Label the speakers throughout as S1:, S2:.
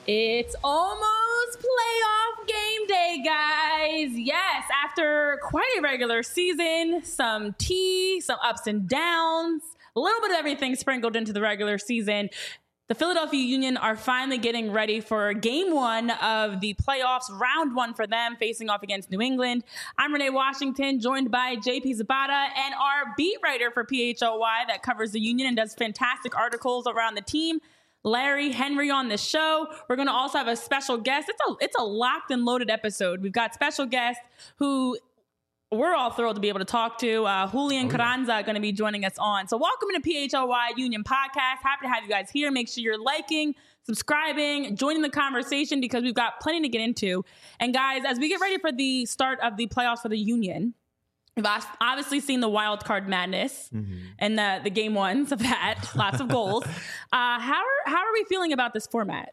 S1: It's almost playoff game day, guys. Yes, after quite a regular season, some tea, some ups and downs, a little bit of everything sprinkled into the regular season. The Philadelphia Union are finally getting ready for game one of the playoffs, round one for them, facing off against New England. I'm Renee Washington, joined by JP Zapata and our beat writer for PHLY that covers the Union and does fantastic articles around the team, Larry Henry, on the show. We're going to also have a special guest. It's a locked and loaded episode. We've got special guests who we're all thrilled to be able to talk to. Julian Carranza going to be joining us on. So welcome to PHLY Union Podcast. Happy to have you guys here. Make sure you're liking, subscribing, joining the conversation because we've got plenty to get into. And guys, as we get ready for the start of the playoffs for the Union, we've obviously seen the wild card madness and the game ones of that. Lots of goals. How are we feeling about this format?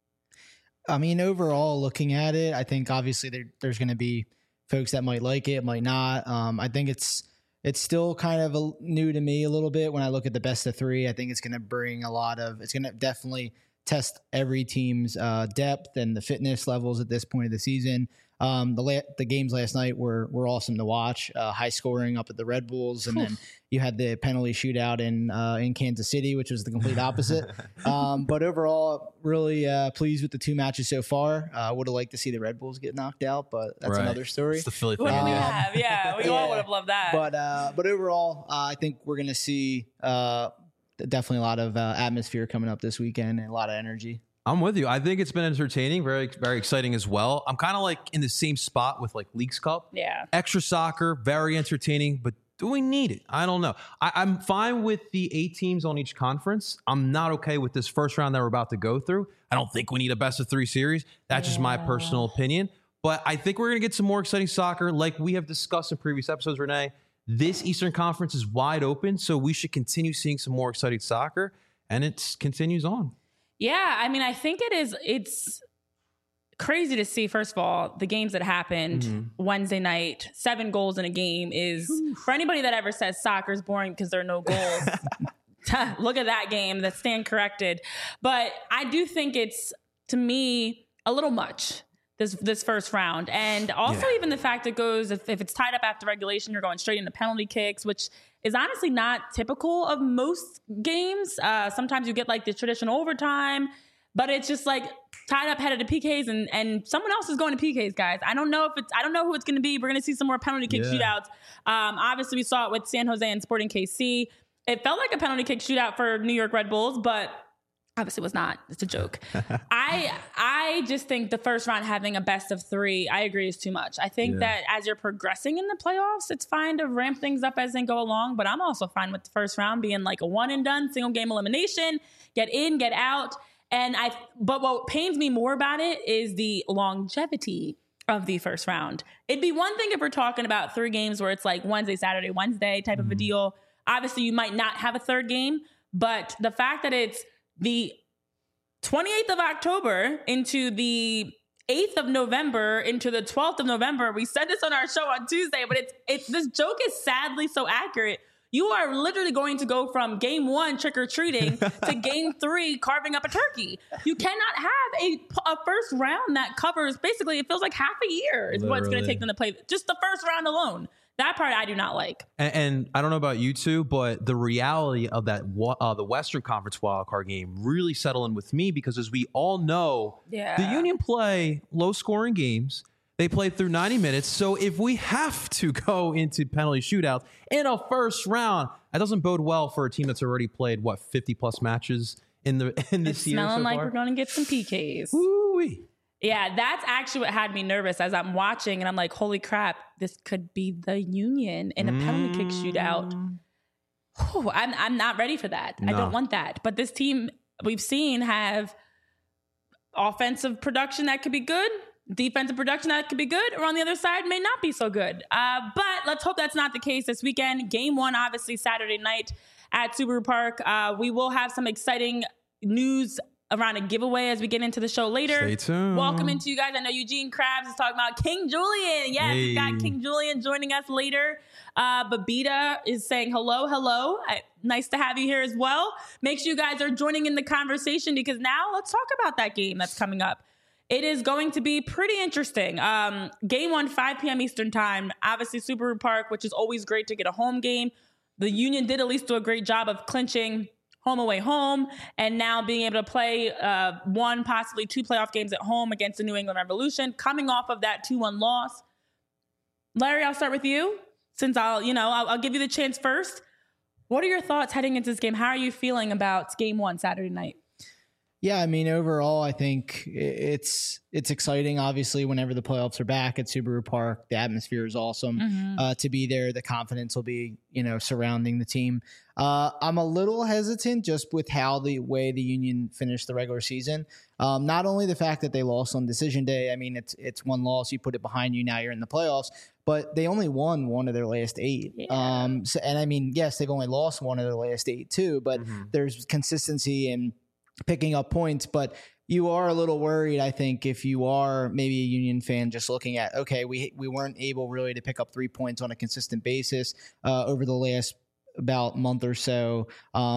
S2: I mean, overall, looking at it, I think obviously there's going to be folks that might like it, might not. I think it's still kind of new to me a little bit when I look at the best of three. I think it's going to bring it's going to definitely test every team's depth and the fitness levels at this point of the season. The games last night were awesome to watch. High scoring up at the Red Bulls, and then you had the penalty shootout in Kansas City, which was the complete opposite. But overall, really pleased with the two matches so far. Would have liked to see the Red Bulls get knocked out, but that's another story.
S3: It's the Philly thing.
S1: What do we have? Yeah, we all would have loved that.
S2: But overall, I think we're going to see definitely a lot of atmosphere coming up this weekend and a lot of energy.
S3: I'm with you. I think it's been entertaining, very, very exciting as well. I'm kind of like in the same spot with like Leagues Cup.
S1: Yeah.
S3: Extra soccer, very entertaining, but do we need it? I don't know. I'm fine with the 8 teams on each conference. I'm not okay with this first round that we're about to go through. I don't think we need a best of 3 series. That's just my personal opinion. But I think we're going to get some more exciting soccer. Like we have discussed in previous episodes, Renee, this Eastern Conference is wide open, so we should continue seeing some more exciting soccer, and it continues on.
S1: Yeah, I mean, I think it's crazy to see, first of all, the games that happened Wednesday night, 7 goals in a game is, for anybody that ever says soccer's boring because there are no goals, look at that game, that's stand corrected. But I do think it's, to me, a little much, this first round. And also even the fact it goes, if it's tied up after regulation, you're going straight into penalty kicks, which is honestly not typical of most games. Sometimes you get like the traditional overtime, but it's just like tied up, headed to PKs, and someone else is going to PKs, guys. I don't know who it's going to be. We're going to see some more penalty kick shootouts. Obviously, we saw it with San Jose and Sporting KC. It felt like a penalty kick shootout for New York Red Bulls, but obviously it was not. It's a joke. I just think the first round having a best of 3, I agree, is too much. I think that as you're progressing in the playoffs, it's fine to ramp things up as they go along, but I'm also fine with the first round being like a one and done, single game elimination, get in, get out. But what pains me more about it is the longevity of the first round. It'd be one thing if we're talking about 3 games where it's like Wednesday, Saturday, Wednesday type of a deal. Obviously, you might not have a third game, but the fact that it's the 28th of October into the 8th of November into the 12th of November. We said this on our show on Tuesday, but it's this joke is sadly so accurate. You are literally going to go from game 1 trick-or-treating to game 3 carving up a turkey. You cannot have a first round that covers, basically, it feels like half a year is what it's going to take them to play. Just the first round alone. That part I do not like.
S3: And I don't know about you two, but the reality of that, the Western Conference wildcard game really settled in with me because, as we all know, the Union play low-scoring games. They play through 90 minutes. So if we have to go into penalty shootouts in a first round, that doesn't bode well for a team that's already played, 50-plus matches in this year so
S1: smelling like
S3: far?
S1: We're going to get some PKs.
S3: Woo-wee.
S1: Yeah, that's actually what had me nervous as I'm watching, and I'm like, holy crap, this could be the Union in a penalty kick shootout. Whew, I'm not ready for that. No. I don't want that. But this team we've seen have offensive production that could be good, defensive production that could be good, or on the other side may not be so good. But let's hope that's not the case this weekend. Game 1, obviously, Saturday night at Subaru Park. We will have some exciting news around a giveaway as we get into the show later.
S3: Stay tuned.
S1: Welcome into you guys. I know Eugene Krabs is talking about King Julian. Yes, we've got King Julian joining us later. Babita is saying hello. nice to have you here as well. Make sure you guys are joining in the conversation, because now let's talk about that game that's coming up. It is going to be pretty interesting. Game 1, 5 p.m. Eastern time, obviously Subaru Park, which is always great to get a home game. The Union did at least do a great job of clinching home away home, and now being able to play 1, possibly 2 playoff games at home against the New England Revolution, coming off of that 2-1 loss. Larry, I'll start with you, since I'll give you the chance first. What are your thoughts heading into this game? How are you feeling about game 1 Saturday night?
S2: Yeah, I mean, overall, I think it's exciting. Obviously, whenever the playoffs are back at Subaru Park, the atmosphere is awesome to be there. The confidence will be, surrounding the team. I'm a little hesitant just with how the way the Union finished the regular season. Not only the fact that they lost on decision day. I mean, it's one loss. You put it behind you. Now you're in the playoffs. But they only won 1 of their last 8.
S1: Yeah.
S2: And I mean, yes, they've only lost 1 of their last 8 too. But there's consistency in picking up points, but you are a little worried, I think, if you are maybe a Union fan just looking at, okay, we weren't able really to pick up 3 points on a consistent basis over the last about month or so.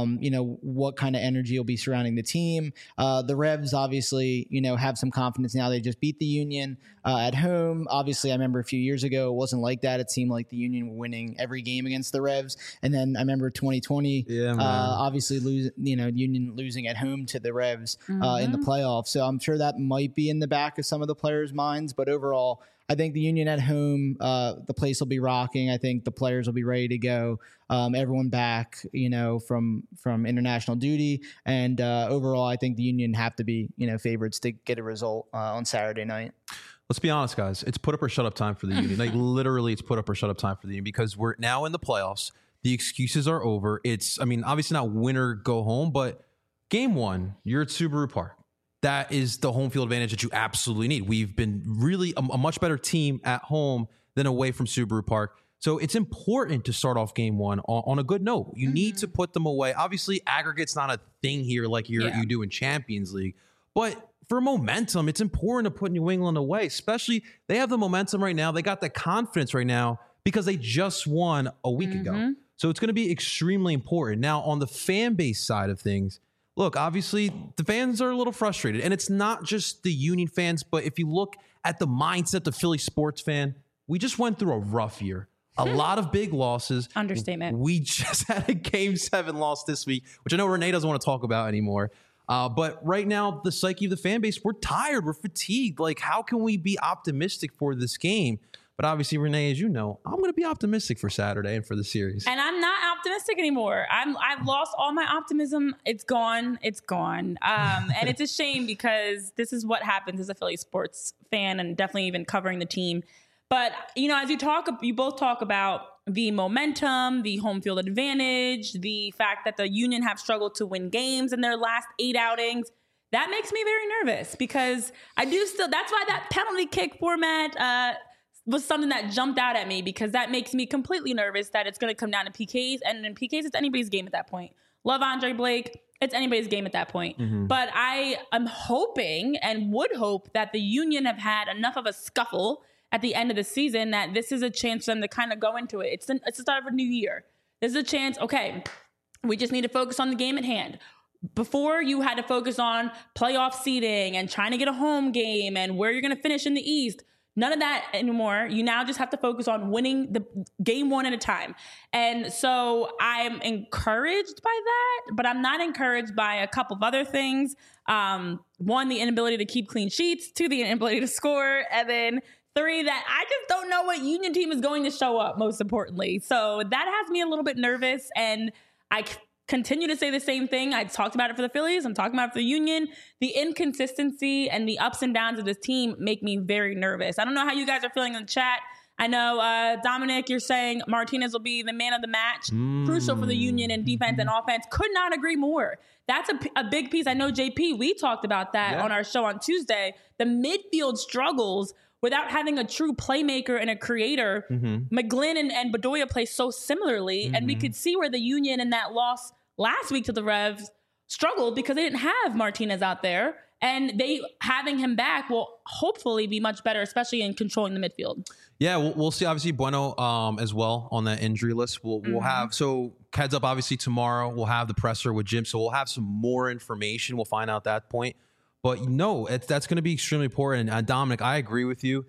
S2: What kind of energy will be surrounding the team. The Revs obviously, have some confidence now. They just beat the Union at home. Obviously, I remember a few years ago, it wasn't like that. It seemed like the Union were winning every game against the Revs. And then I remember 2020, obviously Union losing at home to the Revs in the playoffs. So I'm sure that might be in the back of some of the players' minds. But overall, I think the Union at home, the place will be rocking. I think the players will be ready to go. Everyone back, from international duty. And overall, I think the Union have to be, favorites to get a result on Saturday night.
S3: Let's be honest, guys. It's put up or shut up time for the Union. Like, literally, it's put up or shut up time for the Union, because we're now in the playoffs. The excuses are over. Obviously not win or go home, but game 1, you're at Subaru Park. That is the home field advantage that you absolutely need. We've been really a much better team at home than away from Subaru Park. So it's important to start off game 1 on a good note. You need to put them away. Obviously, aggregate's not a thing here like you do in Champions League. But for momentum, it's important to put New England away, especially they have the momentum right now. They got the confidence right now because they just won a week ago. So it's going to be extremely important. Now, on the fan base side of things, look, obviously, the fans are a little frustrated. And it's not just the Union fans, but if you look at the mindset of the Philly sports fan, we just went through a rough year. A lot of big losses.
S1: Understatement.
S3: We just had a Game 7 loss this week, which I know Renee doesn't want to talk about anymore. But right now, the psyche of the fan base, we're tired. We're fatigued. Like, how can we be optimistic for this game? But obviously, Renee, as you know, I'm going to be optimistic for Saturday and for the series.
S1: And I'm not optimistic anymore. I've lost all my optimism. It's gone. It's gone. And it's a shame, because this is what happens as a Philly sports fan, and definitely even covering the team. But, as you both talk about the momentum, the home field advantage, the fact that the Union have struggled to win games in their last 8 outings, that makes me very nervous, because that's why that penalty kick format was something that jumped out at me, because that makes me completely nervous that it's going to come down to PKs, and in PKs, it's anybody's game at that point. Love Andre Blake. It's anybody's game at that point. But I am hoping and would hope that the Union have had enough of a scuffle at the end of the season that this is a chance for them to kind of go into it. It's the start of a new year. This is a chance, okay, we just need to focus on the game at hand. Before, you had to focus on playoff seeding and trying to get a home game and where you're going to finish in the East. None of that anymore. You now just have to focus on winning the game 1 at a time. And so I'm encouraged by that, but I'm not encouraged by a couple of other things. 1, the inability to keep clean sheets. 2, the inability to score. And then 3, that I just don't know what Union team is going to show up, most importantly. So that has me a little bit nervous, and I continue to say the same thing. I talked about it for the Phillies. I'm talking about it for the Union. The inconsistency and the ups and downs of this team make me very nervous. I don't know how you guys are feeling in the chat. I know, Dominic, you're saying Martinez will be the man of the match. Crucial for the Union in defense and offense. Could not agree more. That's a big piece. I know, JP, we talked about that on our show on Tuesday. The midfield struggles without having a true playmaker and a creator. McGlynn and Bedoya play so similarly, and we could see where the Union in that loss last week to the Revs struggled because they didn't have Martinez out there, And having him back will hopefully be much better, especially in controlling the midfield.
S3: Yeah, we'll see. Obviously, Bueno as well on that injury list. We'll have, so heads up, obviously tomorrow we'll have the presser with Jim. So we'll have some more information. We'll find out that point. But no, that's going to be extremely important. And Dominic, I agree with you.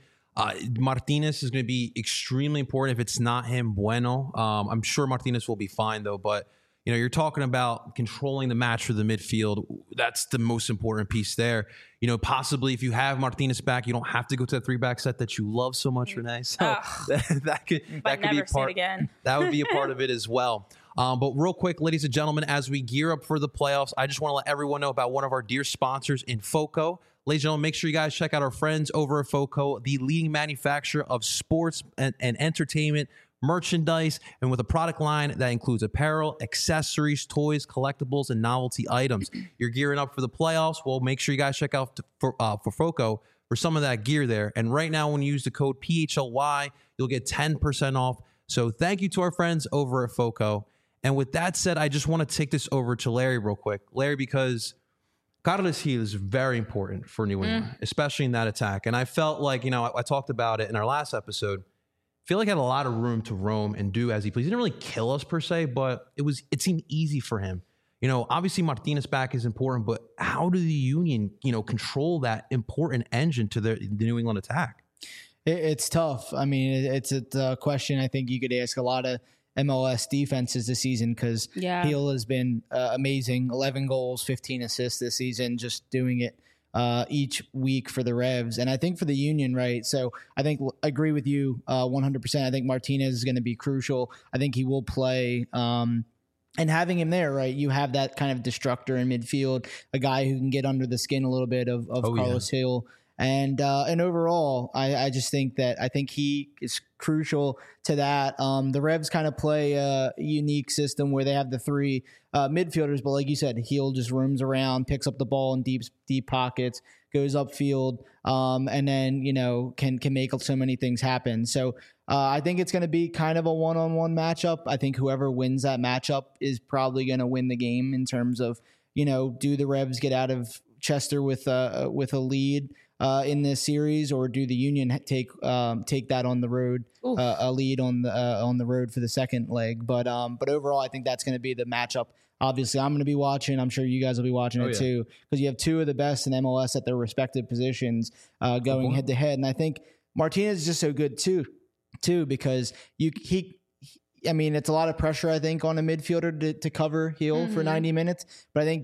S3: Martinez is going to be extremely important. If it's not him, Bueno. I'm sure Martinez will be fine though. But you're talking about controlling the match for the midfield. That's the most important piece there. Possibly if you have Martinez back, you don't have to go to that 3-back set that you love so much, Renee. So that could be a part. Again. That would be a part of it as well. But real quick, ladies and gentlemen, as we gear up for the playoffs, I just want to let everyone know about one of our dear sponsors in FOCO. Ladies and gentlemen, make sure you guys check out our friends over at FOCO, the leading manufacturer of sports and entertainment merchandise, and with a product line that includes apparel, accessories, toys, collectibles, and novelty items. You're gearing up for the playoffs. Well, make sure you guys check out for FOCO for some of that gear there. And right now, when you use the code PHLY, you'll get 10% off. So thank you to our friends over at FOCO. And with that said, I just want to take this over to Larry real quick. Larry, because Carlos Gil is very important for New England, especially in that attack. And I felt like, I talked about it in our last episode. I feel like he had a lot of room to roam and do as he pleased. He didn't really kill us per se, but it seemed easy for him. Obviously Martinez back is important, but how do the Union, control that important engine to the New England attack?
S2: It's tough. I mean, it's a question I think you could ask a lot of MLS defenses this season, because Gil has been amazing. 11 goals, 15 assists this season, just doing it each week for the Revs. And I think for the Union, right, so I agree with you 100%. I think Martinez is going to be crucial. I think he will play. And having him there, right, you have that kind of destructor in midfield, a guy who can get under the skin a little bit of Carlos Gil. And overall, I just think he is crucial to that. The Revs kind of play a unique system where they have the 3 midfielders, but like you said, Gil just roams around, picks up the ball in deep pockets, goes upfield, and then can make so many things happen. So I think it's going to be kind of a one-on-one matchup. I think whoever wins that matchup is probably going to win the game in terms of do the Revs get out of Chester with a lead in this series, or do the Union take that on the road, a lead on the road for the second leg? But overall, I think that's going to be the matchup. Obviously, I'm going to be watching. I'm sure you guys will be watching it too, because you have 2 of the best in MLS at their respective positions going head to head. And I think Martinez is just so good too, because I mean, it's a lot of pressure, I think, on a midfielder to cover Gil for 90 minutes. But I think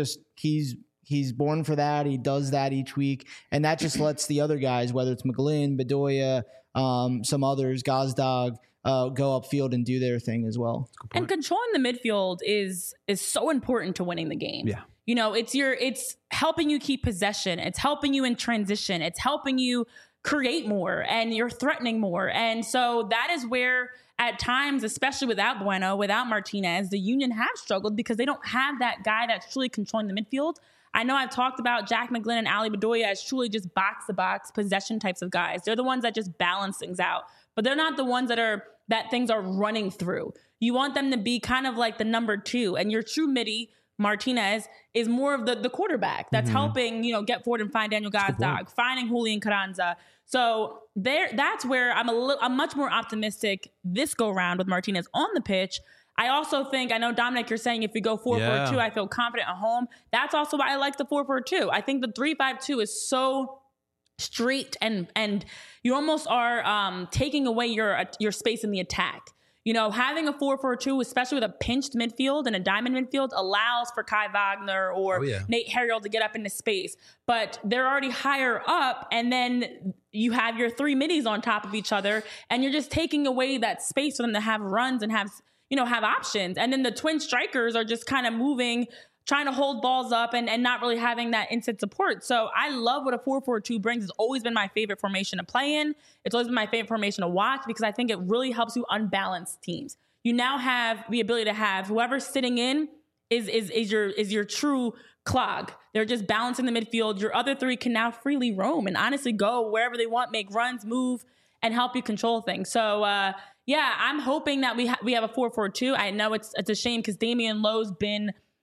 S2: he's born for that. He does that each week. And that just lets the other guys, whether it's McGlynn, Bedoya, some others, Gazdag, go upfield and do their thing as well.
S1: And controlling the midfield is so important to winning the game. Yeah. It's helping you keep possession. It's helping you in transition. It's helping you create more, and you're threatening more. And so that is where at times, especially without Bueno, without Martinez, the Union have struggled because they don't have that guy that's truly controlling the midfield. I know I've talked about Jack McGlynn and Ali Bedoya as truly just box-to-box possession types of guys. They're the ones that just balance things out, but they're not the ones that things are running through. You want them to be kind of like the number 2, and your true midi, Martinez, is more of the quarterback that's helping, get forward and find Daniel Gazdag, finding Julian Carranza. So that's where I'm much more optimistic this go round with Martinez on the pitch. I also think, I know, Dominic, you're saying if we go 4-4-2, I feel confident at home. That's also why I like the 4-4-2. I think the 3-5-2 is so straight, and you almost are taking away your space in the attack. Having a 4-4-2, especially with a pinched midfield and a diamond midfield, allows for Kai Wagner or Nate Harriel to get up into space. But they're already higher up, and then you have your 3 middies on top of each other, and you're just taking away that space for them to have runs and have options. And then the twin strikers are just kind of moving, trying to hold balls up and not really having that instant support. So I love what a 4-4-2 brings. It's always been my favorite formation to play in. It's always been my favorite formation to watch, because I think it really helps you unbalance teams. You now have the ability to have whoever's sitting in is your true clog. They're just balancing the midfield. Your other 3 can now freely roam and honestly go wherever they want, make runs, move, and help you control things. So, I'm hoping that we have a 4-4-2. I know it's a shame because Damian Lowe's been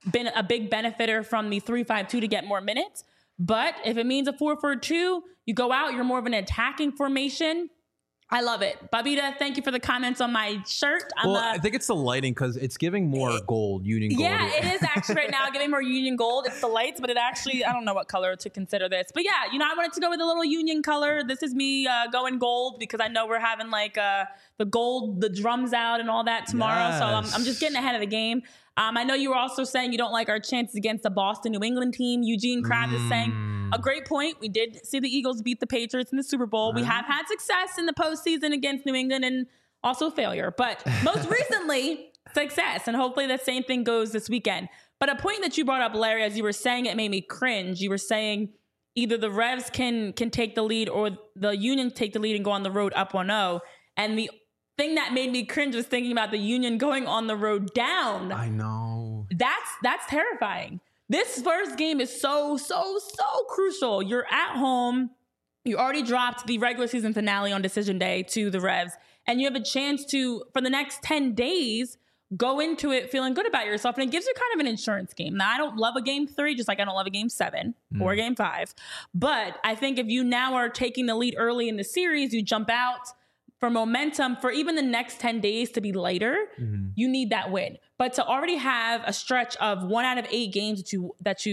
S1: been a big benefiter from the 3-5-2 to get more minutes. But if it means a 4-4-2, you go out, you're more of an attacking formation. I love it. Babita, thank you for the comments on my shirt.
S3: I think it's the lighting because it's giving more gold, Union gold.
S1: Yeah, it is actually right now giving more Union gold. It's the lights, but it actually, I don't know what color to consider this. But yeah, I wanted to go with a little Union color. This is me going gold because I know we're having like the gold, the drums out and all that tomorrow.
S3: Yes.
S1: So I'm just getting ahead of the game. I know you were also saying you don't like our chances against the Boston New England team. Eugene Krabs is saying a great point. We did see the Eagles beat the Patriots in the Super Bowl. We have had success in the postseason against New England and also failure, but most recently success. And hopefully the same thing goes this weekend. But a point that you brought up, Larry, as you were saying, it made me cringe. You were saying either the Revs can take the lead or the Union take the lead and go on the road up 1-0. And the thing that made me cringe was thinking about the Union going on the road down.
S3: I know.
S1: That's terrifying. This first game is so crucial. You're at home. You already dropped the regular season finale on decision day to the Revs, and you have a chance to, for the next 10 days, go into it feeling good about yourself. And it gives you kind of an insurance game. Now, I don't love a game 3, just like I don't love a game 7 or game 5. But I think if you now are taking the lead early in the series, you jump out for momentum for even the next 10 days to be lighter, you need that win. But to already have a stretch of 1 out of 8 games that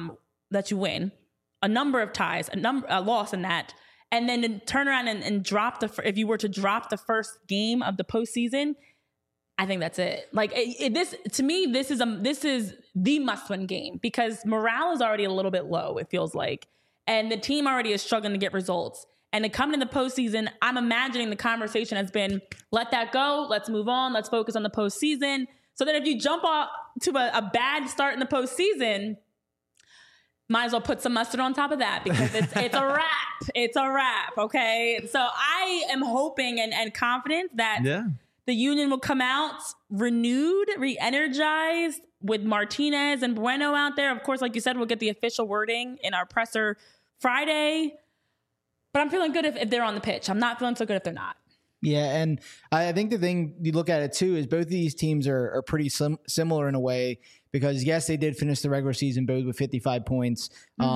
S1: you win, a number of ties, a loss in that, and then to turn around and drop if you were to drop the first game of the postseason, I think that's it. Like this to me, this is the must-win game because morale is already a little bit low. It feels like, and the team already is struggling to get results. And to come in the postseason, I'm imagining the conversation has been, let that go. Let's move on. Let's focus on the postseason. So that if you jump off to a bad start in the postseason, might as well put some mustard on top of that because it's a wrap. It's a wrap. Okay. So I am hoping and confident that the Union will come out renewed, re-energized with Martinez and Bueno out there. Of course, like you said, we'll get the official wording in our presser Friday. But I'm feeling good if they're on the pitch. I'm not feeling so good if they're not.
S2: Yeah, and I think the thing you look at it too is both of these teams are pretty similar in a way because, yes, they did finish the regular season both with 55 points.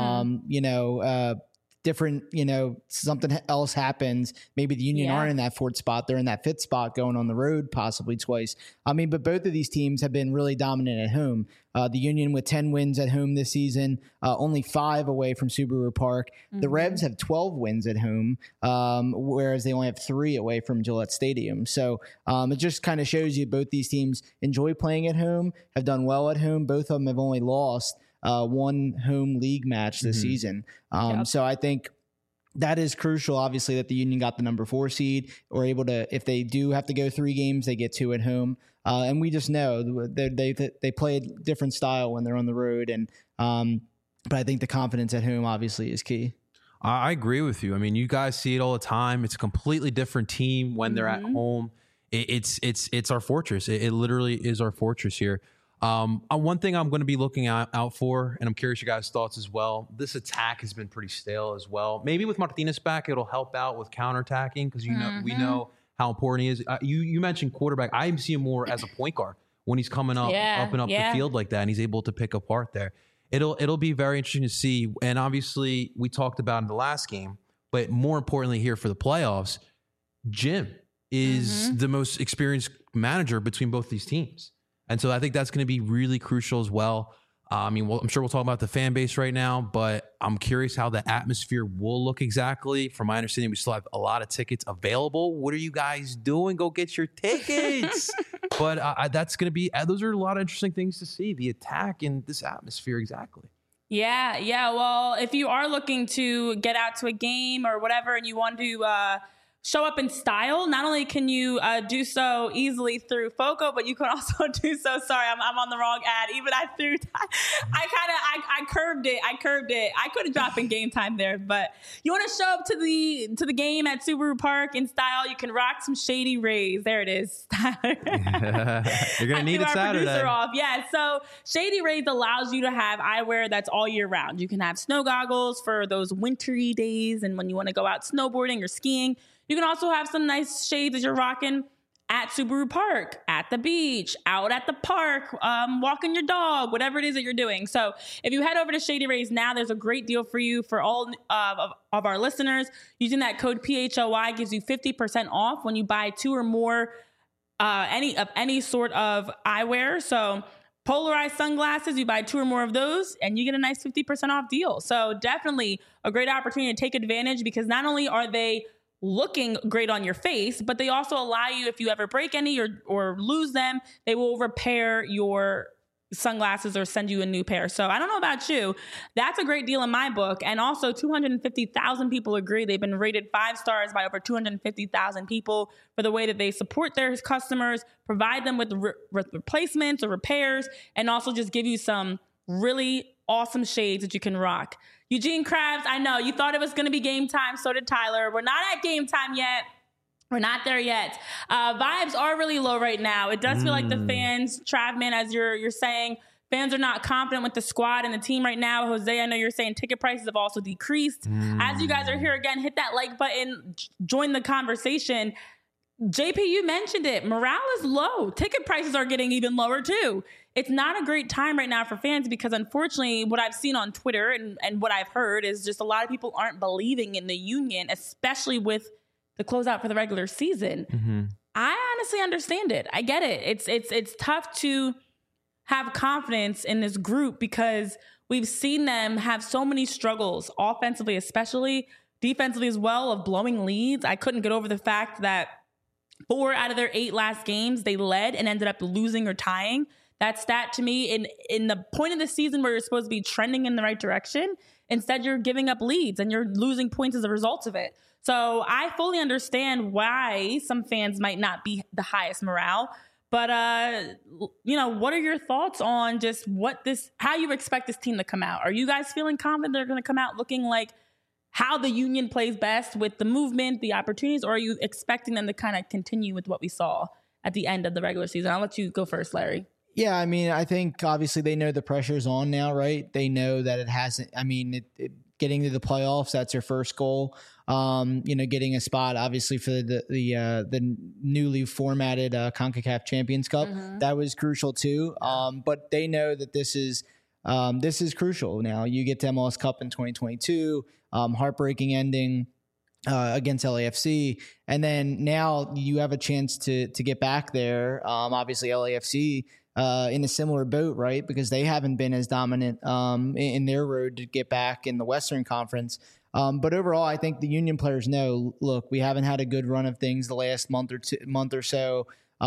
S2: Different, something else happens. Maybe the Union aren't in that 4th spot. They're in that 5th spot going on the road possibly twice. But both of these teams have been really dominant at home. The Union with 10 wins at home this season, only 5 away from Subaru Park. The Revs have 12 wins at home, whereas they only have 3 away from Gillette Stadium. So it just kind of shows you both these teams enjoy playing at home, have done well at home. Both of them have only lost 1 home league match this season. So I think that is crucial, obviously, that the Union got the number 4 seed or able to, if they do have to go 3 games, they get 2 at home. And we just know they play a different style when they're on the road. But I think the confidence at home obviously is key.
S3: I agree with you. I mean, you guys see it all the time. It's a completely different team when they're at home. It's our fortress. It literally is our fortress here. One thing I'm going to be looking out for, and I'm curious your guys' thoughts as well. This attack has been pretty stale as well. Maybe with Martinez back, it'll help out with counterattacking because we know how important he is. You mentioned quarterback. I see him more as a point guard when he's coming up the field like that, and he's able to pick apart there. It'll be very interesting to see. And obviously, we talked about in the last game, but more importantly here for the playoffs, Jim is the most experienced manager between both these teams. And so I think that's going to be really crucial as well. I'm sure we'll talk about the fan base right now, but I'm curious how the atmosphere will look exactly. From my understanding, we still have a lot of tickets available. What are you guys doing? Go get your tickets. But that's going to be, those are a lot of interesting things to see, the attack in this atmosphere exactly.
S1: Yeah. Well, if you are looking to get out to a game or whatever and you want to show up in style, not only can you do so easily through FOCO, but you can also do so. Sorry, I'm on the wrong ad. Even I curved it. I could have dropped in game time there, but you want to show up to the game at Subaru Park in style. You can rock some Shady Rays. There it is, Tyler.
S3: You're gonna need it Saturday.
S1: Yeah. So Shady Rays allows you to have eyewear that's all year round. You can have snow goggles for those wintry days and when you want to go out snowboarding or skiing. You can also have some nice shades that you're rocking at Subaru Park, at the beach, out at the park, walking your dog, whatever it is that you're doing. So if you head over to Shady Rays now, there's a great deal for you for all of our listeners. Using that code PHLY gives you 50% off when you buy 2 or more any sort of eyewear. So polarized sunglasses, you buy 2 or more of those and you get a nice 50% off deal. So definitely a great opportunity to take advantage, because not only are they looking great on your face, but they also allow you, if you ever break any or lose them, they will repair your sunglasses or send you a new pair. So I don't know about you, that's a great deal in my book. And also 250,000 people agree. They've been rated 5 stars by over 250,000 people for the way that they support their customers, provide them with replacements or repairs, and also just give you some really awesome shades that you can rock. Eugene Krabs, I know you thought it was going to be game time. So did Tyler. We're not at game time yet. We're not there yet. Vibes are really low right now. It does feel like the fans, Travman, as you're saying, fans are not confident with the squad and the team right now. Jose, I know you're saying ticket prices have also decreased. As you guys are here again, hit that like button, join the conversation. JP, you mentioned it. Morale is low. Ticket prices are getting even lower too. It's not a great time right now for fans, because unfortunately what I've seen on Twitter and what I've heard is just a lot of people aren't believing in the Union, especially with the closeout for the regular season. I honestly understand it. I get it. It's tough to have confidence in this group because we've seen them have so many struggles, offensively especially, defensively as well, of blowing leads. I couldn't get over the fact that 4 out of their 8 last games they led and ended up losing or tying. That stat to me, in the point of the season where you're supposed to be trending in the right direction, instead you're giving up leads and you're losing points as a result of it. So I fully understand why some fans might not be the highest morale. But, what are your thoughts on just how you expect this team to come out? Are you guys feeling confident they're going to come out looking like how the Union plays best with the movement, the opportunities, or are you expecting them to kind of continue with what we saw at the end of the regular season? I'll let you go first, Larry.
S2: Yeah, I mean, I think obviously they know the pressure's on now, right? They know that it hasn't. I mean, getting to the playoffs, that's your first goal. Getting a spot, obviously, for the newly formatted CONCACAF Champions Cup, that was crucial too. But they know that this is crucial. Now you get to MLS Cup in 2022, heartbreaking ending against LAFC, and then now you have a chance to get back there. Obviously, LAFC. In a similar boat, right? Because they haven't been as dominant in their road to get back in the Western Conference. But overall, I think the Union players know, look, we haven't had a good run of things the last month or so.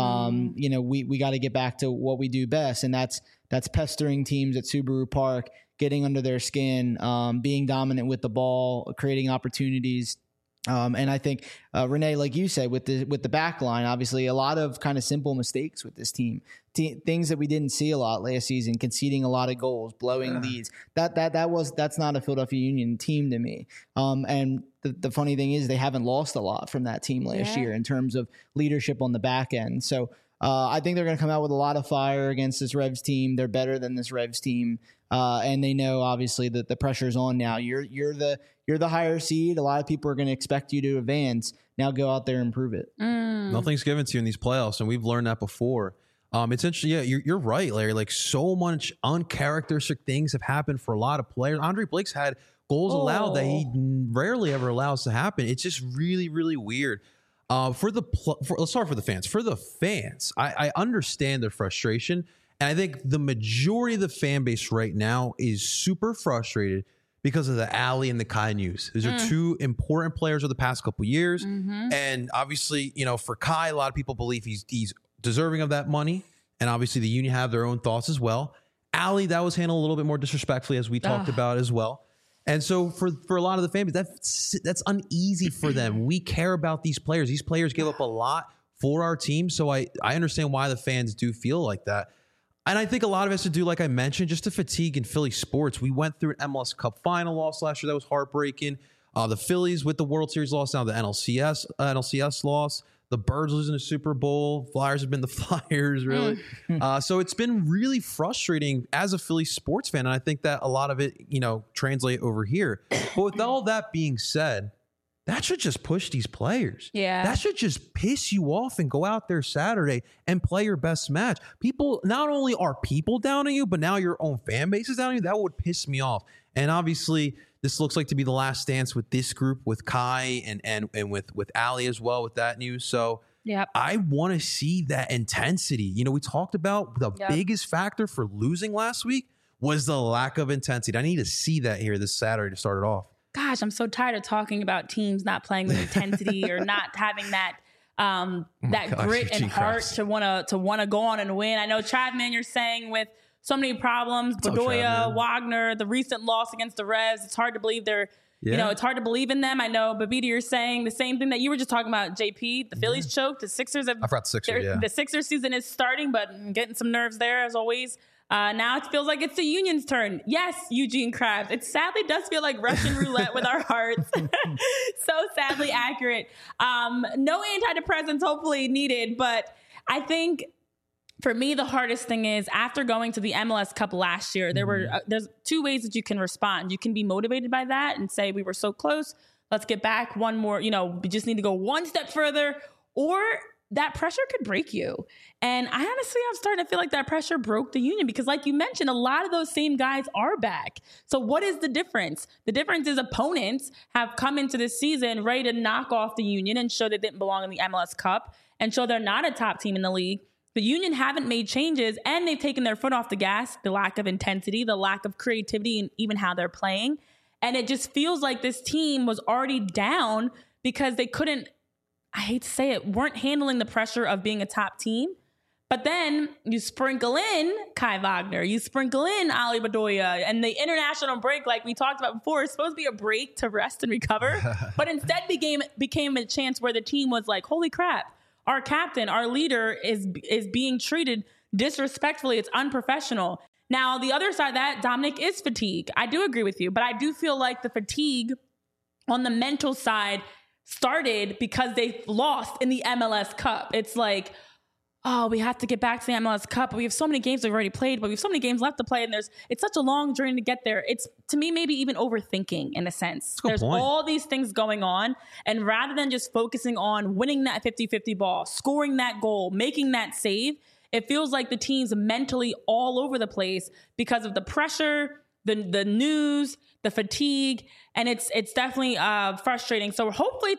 S2: We got to get back to what we do best, and that's pestering teams at Subaru Park, getting under their skin, being dominant with the ball, creating opportunities. And I think, Renee, like you said, with the back line, obviously a lot of kind of simple mistakes with this team, things that we didn't see a lot last season, conceding a lot of goals, blowing leads. That's not a Philadelphia Union team to me. And the funny thing is they haven't lost a lot from that team last year in terms of leadership on the back end. So I think they're going to come out with a lot of fire against this Revs team. They're better than this Revs team. And they know obviously that the pressure's on now. You're the higher seed. A lot of people are going to expect you to advance. Now go out there and prove it.
S3: Nothing's given to you in these playoffs, and we've learned that before. It's interesting. Yeah, you're right, Larry. Like, so much uncharacteristic things have happened for a lot of players. Andre Blake's had goals allowed that he rarely ever allows to happen. It's just really, really weird. Let's start for the fans. For the fans, I understand their frustration. And I think the majority of the fan base right now is super frustrated because of the Ali and the Kai news. Those are 2 important players of the past couple of years. And obviously, for Kai, a lot of people believe he's deserving of that money. And obviously the Union have their own thoughts as well. Ali, that was handled a little bit more disrespectfully, as we talked about as well. And so for a lot of the fan base, that's uneasy for them. We care about these players. These players give up a lot for our team. So I understand why the fans do feel like that. And I think a lot of it has to do, like I mentioned, just the fatigue in Philly sports. We went through an MLS Cup final loss last year that was heartbreaking. The Phillies with the World Series loss, now the NLCS loss. The Birds losing the Super Bowl. Flyers have been the Flyers, really. So it's been really frustrating as a Philly sports fan, and I think that a lot of it, translate over here. But with all that being said, that should just push these players.
S1: Yeah.
S3: That should just piss you off and go out there Saturday and play your best match. People, not only are people down on you, but now your own fan base is down on you. That would piss me off. And obviously, this looks like to be the last dance with this group, with Kai and with Ali as well, with that news. So
S1: Yep.
S3: I want to see that intensity. You know, we talked about the biggest factor for losing last week was the lack of intensity. I need to see that here this Saturday to start it off.
S1: Gosh, I'm so tired of talking about teams not playing with intensity or not having that grit and heart to want to go on and win. I know, Travman, you're saying with so many problems, Bedoya, Wagner, the recent loss against the Revs, it's hard to believe they're, you know, it's hard to believe in them. I know, Babita, you're saying the same thing that you were just talking about, JP. The Phillies choked. The Sixers have...
S3: I forgot the Sixers,
S1: The Sixers season is starting, but getting some nerves there, as always. Now it feels like it's the Union's turn. Yes, Eugene Krabs. It sadly does feel like Russian roulette with our hearts. So sadly accurate. No antidepressants hopefully needed, but I think for me, the hardest thing is after going to the MLS Cup last year, there's two ways that you can respond. You can be motivated by that and say, we were so close. Let's get back one more, we just need to go one step further, or that pressure could break you. And I'm starting to feel like that pressure broke the Union because like you mentioned, a lot of those same guys are back. So what is the difference? The difference is opponents have come into this season ready to knock off the Union and show they didn't belong in the MLS Cup and show they're not a top team in the league. The Union haven't made changes and they've taken their foot off the gas, the lack of intensity, the lack of creativity, and even how they're playing. And it just feels like this team was already down because they couldn't, I hate to say it, weren't handling the pressure of being a top team. But then you sprinkle in Kai Wagner, you sprinkle in Ali Bedoya, and the international break, like we talked about before, is supposed to be a break to rest and recover. But instead became a chance where the team was like, holy crap, our captain, our leader is being treated disrespectfully. It's unprofessional. Now, the other side of that, Dominic, is fatigue. I do agree with you, but I do feel like the fatigue on the mental side started because they lost in the MLS Cup. It's like, oh, we have to get back to the MLS Cup. We have so many games we've already played, but we have so many games left to play, and it's such a long journey to get there. It's, to me, maybe even overthinking in a sense. There's all these things going on, and rather than just focusing on winning that 50-50 ball, scoring that goal, making that save, it feels like the team's mentally all over the place because of the pressure, the news, the fatigue, and it's definitely frustrating. So hopefully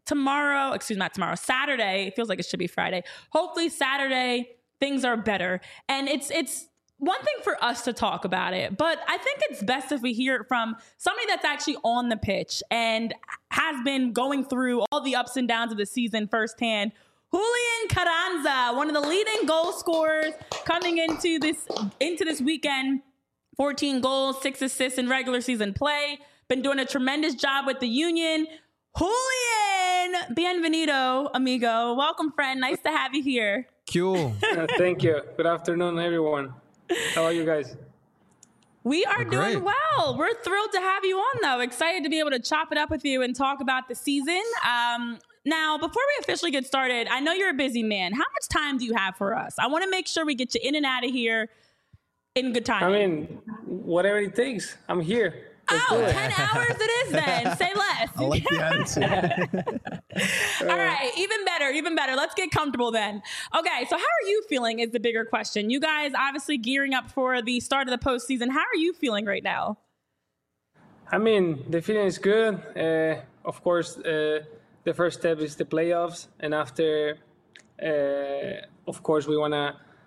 S1: Saturday, it feels like it should be Friday. Hopefully Saturday, things are better. And it's one thing for us to talk about it, but I think it's best if we hear it from somebody that's actually on the pitch and has been going through all the ups and downs of the season firsthand. Julian Carranza, one of the leading goal scorers coming into this weekend. 14 goals, 6 assists in regular season play. Been doing a tremendous job with the Union. Julian, bienvenido, amigo. Welcome, friend. Nice to have you here.
S3: Cool.
S4: Thank you. Good afternoon, everyone. How are you guys?
S1: We are doing well. We're thrilled to have you on, though. Excited to be able to chop it up with you and talk about the season. Now, before we officially get started, I know you're a busy man. How much time do you have for us? I want to make sure we get you in and out of here in good time.
S4: I mean, whatever it takes. I'm here.
S1: 10 hours it is then. Say less.
S2: I like the attitude.
S1: All right. Even better. Let's get comfortable then. Okay. So how are you feeling is the bigger question. You guys obviously gearing up for the start of the postseason. How are you feeling right now?
S4: I mean, the feeling is good. Of course, the first step is the playoffs. And after, of course, we want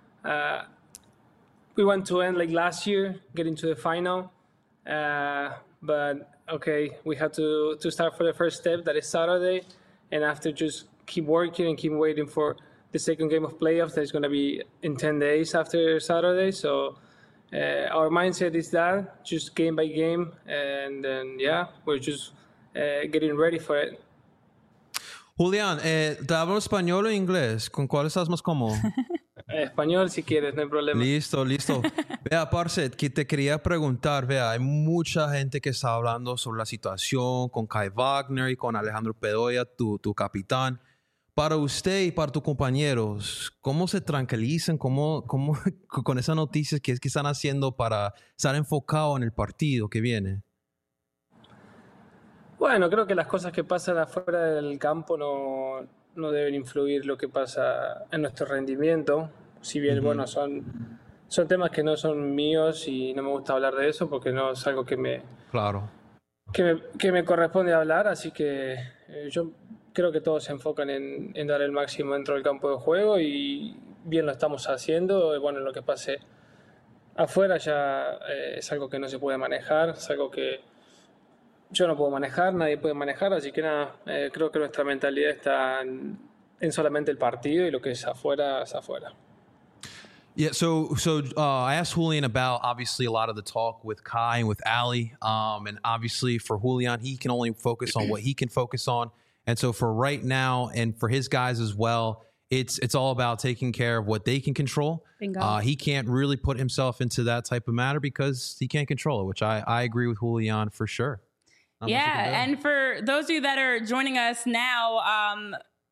S4: to end like last year, get into the final. But okay, we have to start for the first step, that is Saturday, and after just keep working and keep waiting for the second game of playoffs that's going to be in 10 days after Saturday. So our mindset is that, just game by game, and then we're just getting ready for it.
S3: Julián, ¿te hablo español o inglés? ¿Con cuál estás más cómodo?
S4: Español, si quieres, no hay problema.
S3: Listo. Vea, parce, que te quería preguntar, vea, hay mucha gente que está hablando sobre la situación con Kai Wagner y con Alejandro Bedoya, tu capitán. Para usted y para tus compañeros, ¿cómo se tranquilizan? ¿Cómo con esas noticias que están haciendo para estar enfocado en el partido que viene?
S4: Bueno, creo que las cosas que pasan afuera del campo no deben influir lo que pasa en nuestro rendimiento. Si bien, bueno, son temas que no son míos y no me gusta hablar de eso porque no es algo
S3: Claro.
S4: que me corresponde hablar. Así que yo creo que todos se enfocan en dar el máximo dentro del campo de juego y bien lo estamos haciendo. Bueno, lo que pase afuera ya es algo que no se puede manejar, es algo que yo no puedo manejar, nadie puede manejar, así que nada, creo que nuestra mentalidad está en solamente el partido y lo que es afuera es afuera.
S3: Yeah, so I asked Julian about obviously a lot of the talk with Kai and with Ali, and obviously for Julian, he can only focus on what he can focus on, and so for right now and for his guys as well, it's all about taking care of what they can control. He can't really put himself into that type of matter because he can't control it, which I agree with Julian for sure.
S1: Yeah, and for those of you that are joining us now,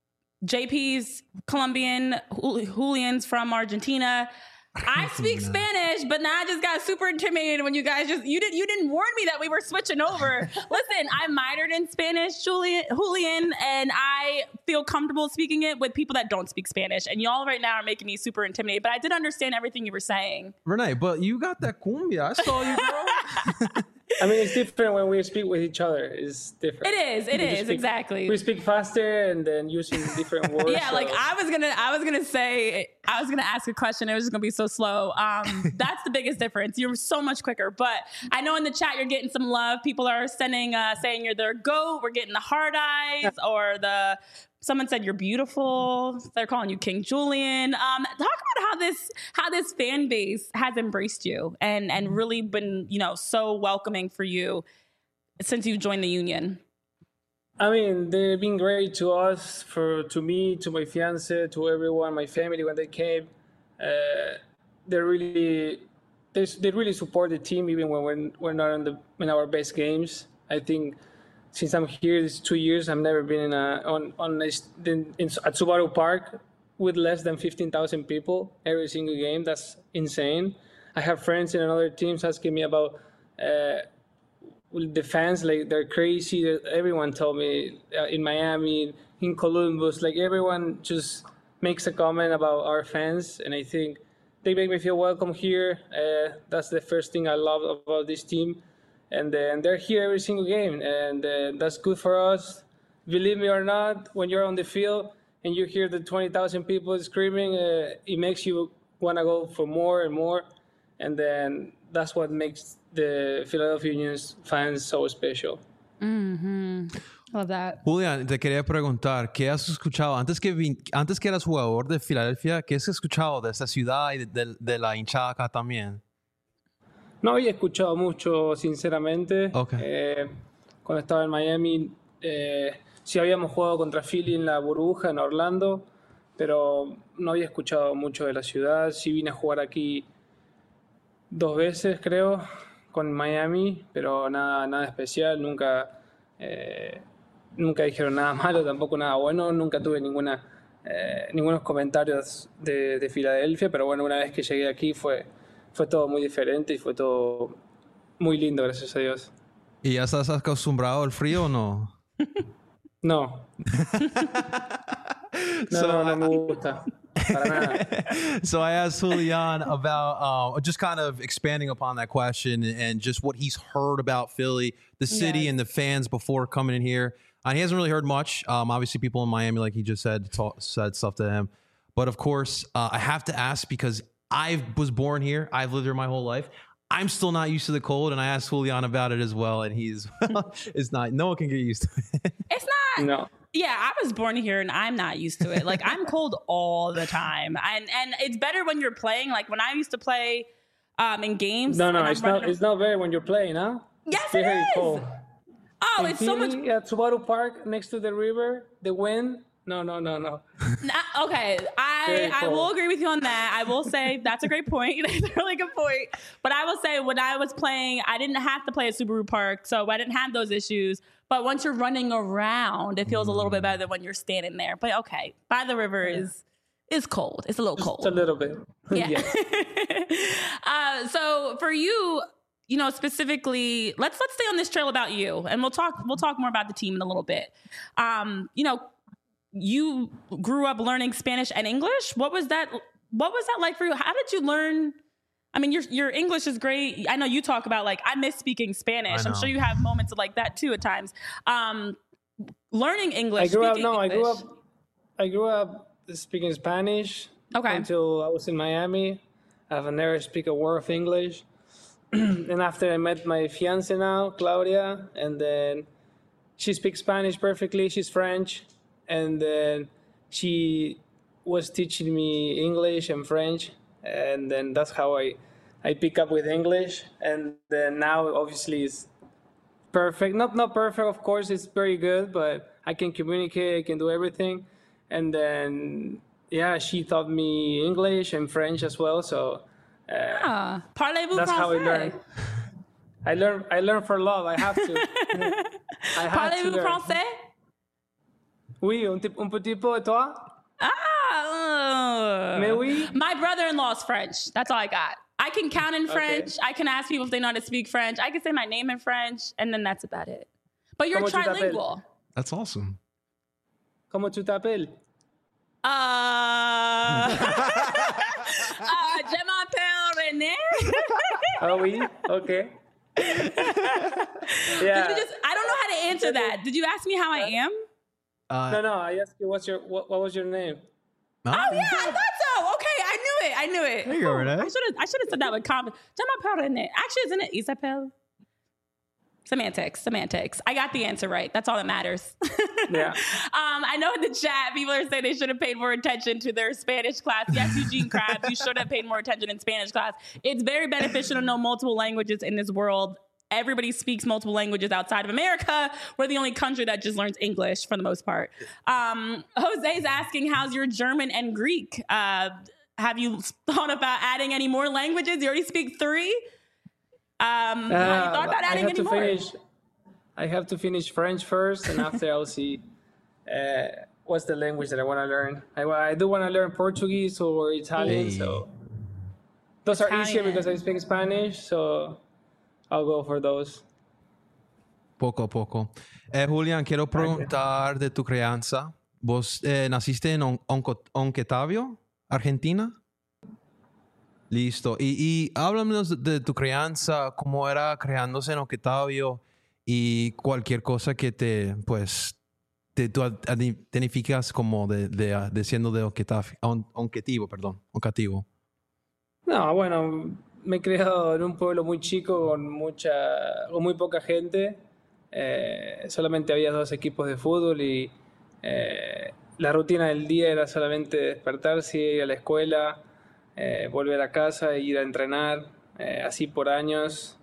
S1: JP's Colombian, Julian's from Argentina. I speak Spanish, but now I just got super intimidated when you guys you didn't warn me that we were switching over. Listen, I minored in Spanish, Julian, and I feel comfortable speaking it with people that don't speak Spanish. And y'all right now are making me super intimidated, but I did understand everything you were saying.
S3: Renee, but you got that cumbia. I saw you, bro.
S4: I mean, it's different when we speak with each other. It's different.
S1: It is, exactly.
S4: We speak faster and then using different words.
S1: Yeah, so. Like I was gonna ask a question. It was just gonna be so slow. That's the biggest difference. You're so much quicker. But I know in the chat you're getting some love. People are sending saying you're their GOAT. We're getting the hard eyes or someone said you're beautiful. They're calling you King Julian. Talk about how this fan base has embraced you and really been, so welcoming for you since you've joined the union.
S4: I mean, they've been great to us, to me, to my fiance, to everyone, my family when they came. They really support the team even when we're not in our best games. I think. Since I'm here, it's 2 years. I've never been at Subaru Park with less than 15,000 people every single game. That's insane. I have friends in other teams asking me about the fans. Like they're crazy. Everyone told me in Miami, in Columbus, like everyone just makes a comment about our fans, and I think they make me feel welcome here. That's the first thing I love about this team. And then they're here every single game, and that's good for us. Believe me or not, when you're on the field and you hear the 20,000 people screaming, it makes you want to go for more and more. And then that's what makes the Philadelphia Union's fans so special.
S1: Mm-hmm. Love that.
S3: Julian, te quería preguntar, ¿qué has escuchado antes que eras jugador de Filadelfia? ¿Qué has escuchado de esta ciudad y de la hinchada acá también?
S4: No había escuchado mucho, sinceramente.
S3: Okay.
S4: Cuando estaba en Miami, sí habíamos jugado contra Philly en la burbuja, en Orlando, pero no había escuchado mucho de la ciudad. Sí vine a jugar aquí 2 veces, creo, con Miami, pero nada especial. Nunca dijeron nada malo, tampoco nada bueno. Nunca tuve ningunos comentarios de Filadelfia, pero bueno, una vez que llegué aquí fue todo muy diferente y fue todo muy lindo, gracias a Dios.
S3: ¿Y ya estás acostumbrado al frío o no?
S4: No. No me gusta. Para nada.
S3: So I asked Julian about just kind of expanding upon that question and just what he's heard about Philly, the city and the fans before coming in here. He hasn't really heard much. Obviously, people in Miami, like he just said stuff to him. But of course, I have to ask because I was born here. I've lived here my whole life. I'm still not used to the cold, and I asked Julian about it as well, and it's not. No one can get used to it.
S1: It's not.
S4: No.
S1: Yeah, I was born here, and I'm not used to it. Like I'm cold all the time, and it's better when you're playing. Like when I used to play in games.
S4: No, it's not better when you're playing, huh?
S1: Yes,
S4: it's very cold.
S1: Oh, it's so much.
S4: At Subaru Park, next to the river, the wind. No.
S1: Okay, I will agree with you on that. I will say that's a great point. That's a really good point. But I will say when I was playing, I didn't have to play at Subaru Park, so I didn't have those issues. But once you're running around, it feels a little bit better than when you're standing there. But okay, by the river is cold. It's a little cold.
S4: Just a little bit.
S1: Yeah. So for you, specifically, let's stay on this trail about you, and we'll talk more about the team in a little bit. You grew up learning Spanish and English. What was that like for you? How did you learn? I mean, your English is great. I know you talk about like, I miss speaking Spanish. I'm sure you have moments of like that too at times. Learning English.
S4: I grew up speaking Spanish until I was in Miami. I've never speak a word of English. And after I met my fiance now, Claudia, and then she speaks Spanish perfectly. She's French. And then she was teaching me English and French. And then that's how I pick up with English. And then now obviously it's perfect. Not perfect, of course, it's very good, but I can communicate, I can do everything. And then, she taught me English and French as well. So
S1: parlez-vous
S4: that's
S1: français?
S4: how I learned. I learned for love. I have to.
S1: Parlez-vous français?
S4: Oui, un petit peu, et toi? Mais oui.
S1: My brother-in-law's French. That's all I got. I can count in French. I can ask people if they know how to speak French. I can say my name in French, and then that's about it. But you're trilingual.
S3: That's awesome.
S4: Comment tu t'appelles?
S1: Je m'appelle René.
S4: Oh, oui? Okay.
S1: Yeah. I don't know how to answer that. Did you ask me how I am?
S4: No. I asked you what was your name?
S1: Oh yeah, I thought so. Okay, I knew it.
S3: There you go, Renee.
S1: I should have said that with confidence. Je m'appelle René. Actually, isn't it Isabel? Semantics. I got the answer right. That's all that matters.
S4: Yeah.
S1: I know in the chat, people are saying they should have paid more attention to their Spanish class. Yes, Eugene Krabs, you should have paid more attention in Spanish class. It's very beneficial to know multiple languages in this world. Everybody speaks multiple languages outside of America. We're the only country that just learns English for the most part. Jose's asking, how's your German and Greek? Have you thought about adding any more languages? You already speak 3. Have you thought about adding any more?
S4: I have to finish French first, and after I'll see what's the language that I want to learn. I do want to learn Portuguese or Italian, so those are easier because I speak Spanish, so I'll go for those.
S3: Poco a poco. Julián, quiero preguntar de tu crianza. ¿Vos naciste en Oncotavio, Argentina? Listo. Y háblanos de tu crianza, cómo era criándose en Oncotavio y cualquier cosa que tú identificas como de siendo de Oncativo.
S4: No, bueno, me he criado en un pueblo muy chico con muy poca gente. Solamente había 2 equipos de fútbol y la rutina del día era solamente despertarse, ir a la escuela, volver a casa e ir a entrenar, así por años.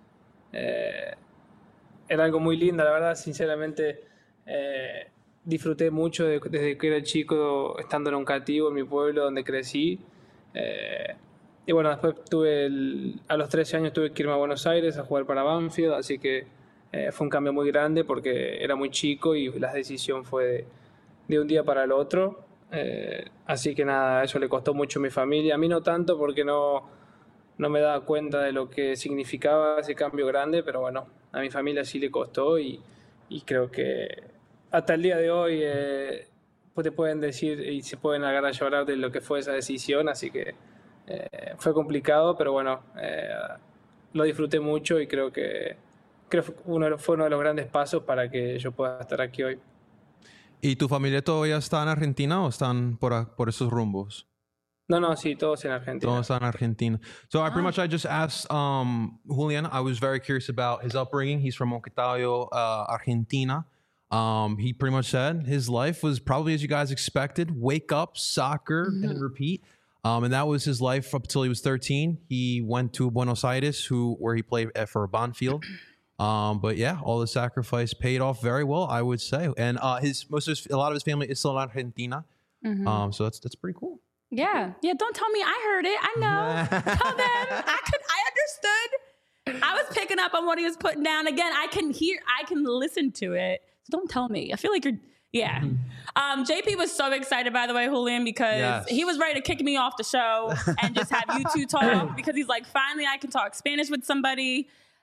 S4: Era algo muy lindo, la verdad, sinceramente. Disfruté mucho desde que era chico estando en Oncativo, en mi pueblo donde crecí. Y bueno, después a los 13 años tuve que irme a Buenos Aires a jugar para Banfield, así que fue un cambio muy grande porque era muy chico y la decisión fue de un día para el otro. Así que nada, eso le costó mucho a mi familia. A mí no tanto porque no me daba cuenta de lo que significaba ese cambio grande, pero bueno, a mi familia sí le costó y creo que hasta el día de hoy pues te pueden decir y se pueden agarrar a llorar de lo que fue esa decisión, así que fue complicado, pero bueno, lo disfruté mucho y creo que fue uno de los grandes pasos para que yo pueda estar aquí hoy.
S3: ¿Y tu familia todavía está en Argentina o están por esos rumbos?
S4: No, sí, todos en Argentina.
S3: Todos en Argentina. So I just asked Julián, I was very curious about his upbringing. He's from Oncotavio, Argentina. He pretty much said his life was probably as you guys expected. Wake up, soccer, and repeat. And that was his life up until he was 13. He went to Buenos Aires, where he played for Banfield. But yeah, all the sacrifice paid off very well, I would say. And a lot of his family is still in Argentina. So that's pretty cool.
S1: Yeah. Don't tell me I heard it. I know. Tell them. I understood. I was picking up on what he was putting down. Again, I can listen to it. So don't tell me. I feel like yeah. JP was so excited, by the way, Julián, because he was ready to kick me off the show and just have you two talk because he's like, finally I can talk Spanish with somebody.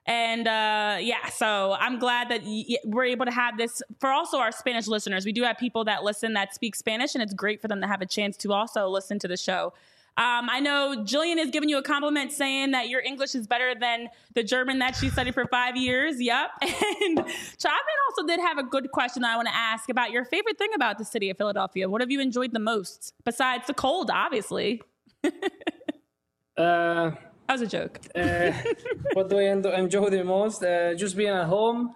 S1: And so I'm glad that we're able to have this for also our Spanish listeners. We do have people that listen that speak Spanish, and it's great for them to have a chance to also listen to the show. I know Jillian has given you a compliment saying that your English is better than the German that she studied for 5 years. Yep. And Chapman also did have a good question that I want to ask about your favorite thing about the city of Philadelphia. What have you enjoyed the most besides the cold, obviously? That was a joke.
S4: What do I enjoy the most? Just being at home.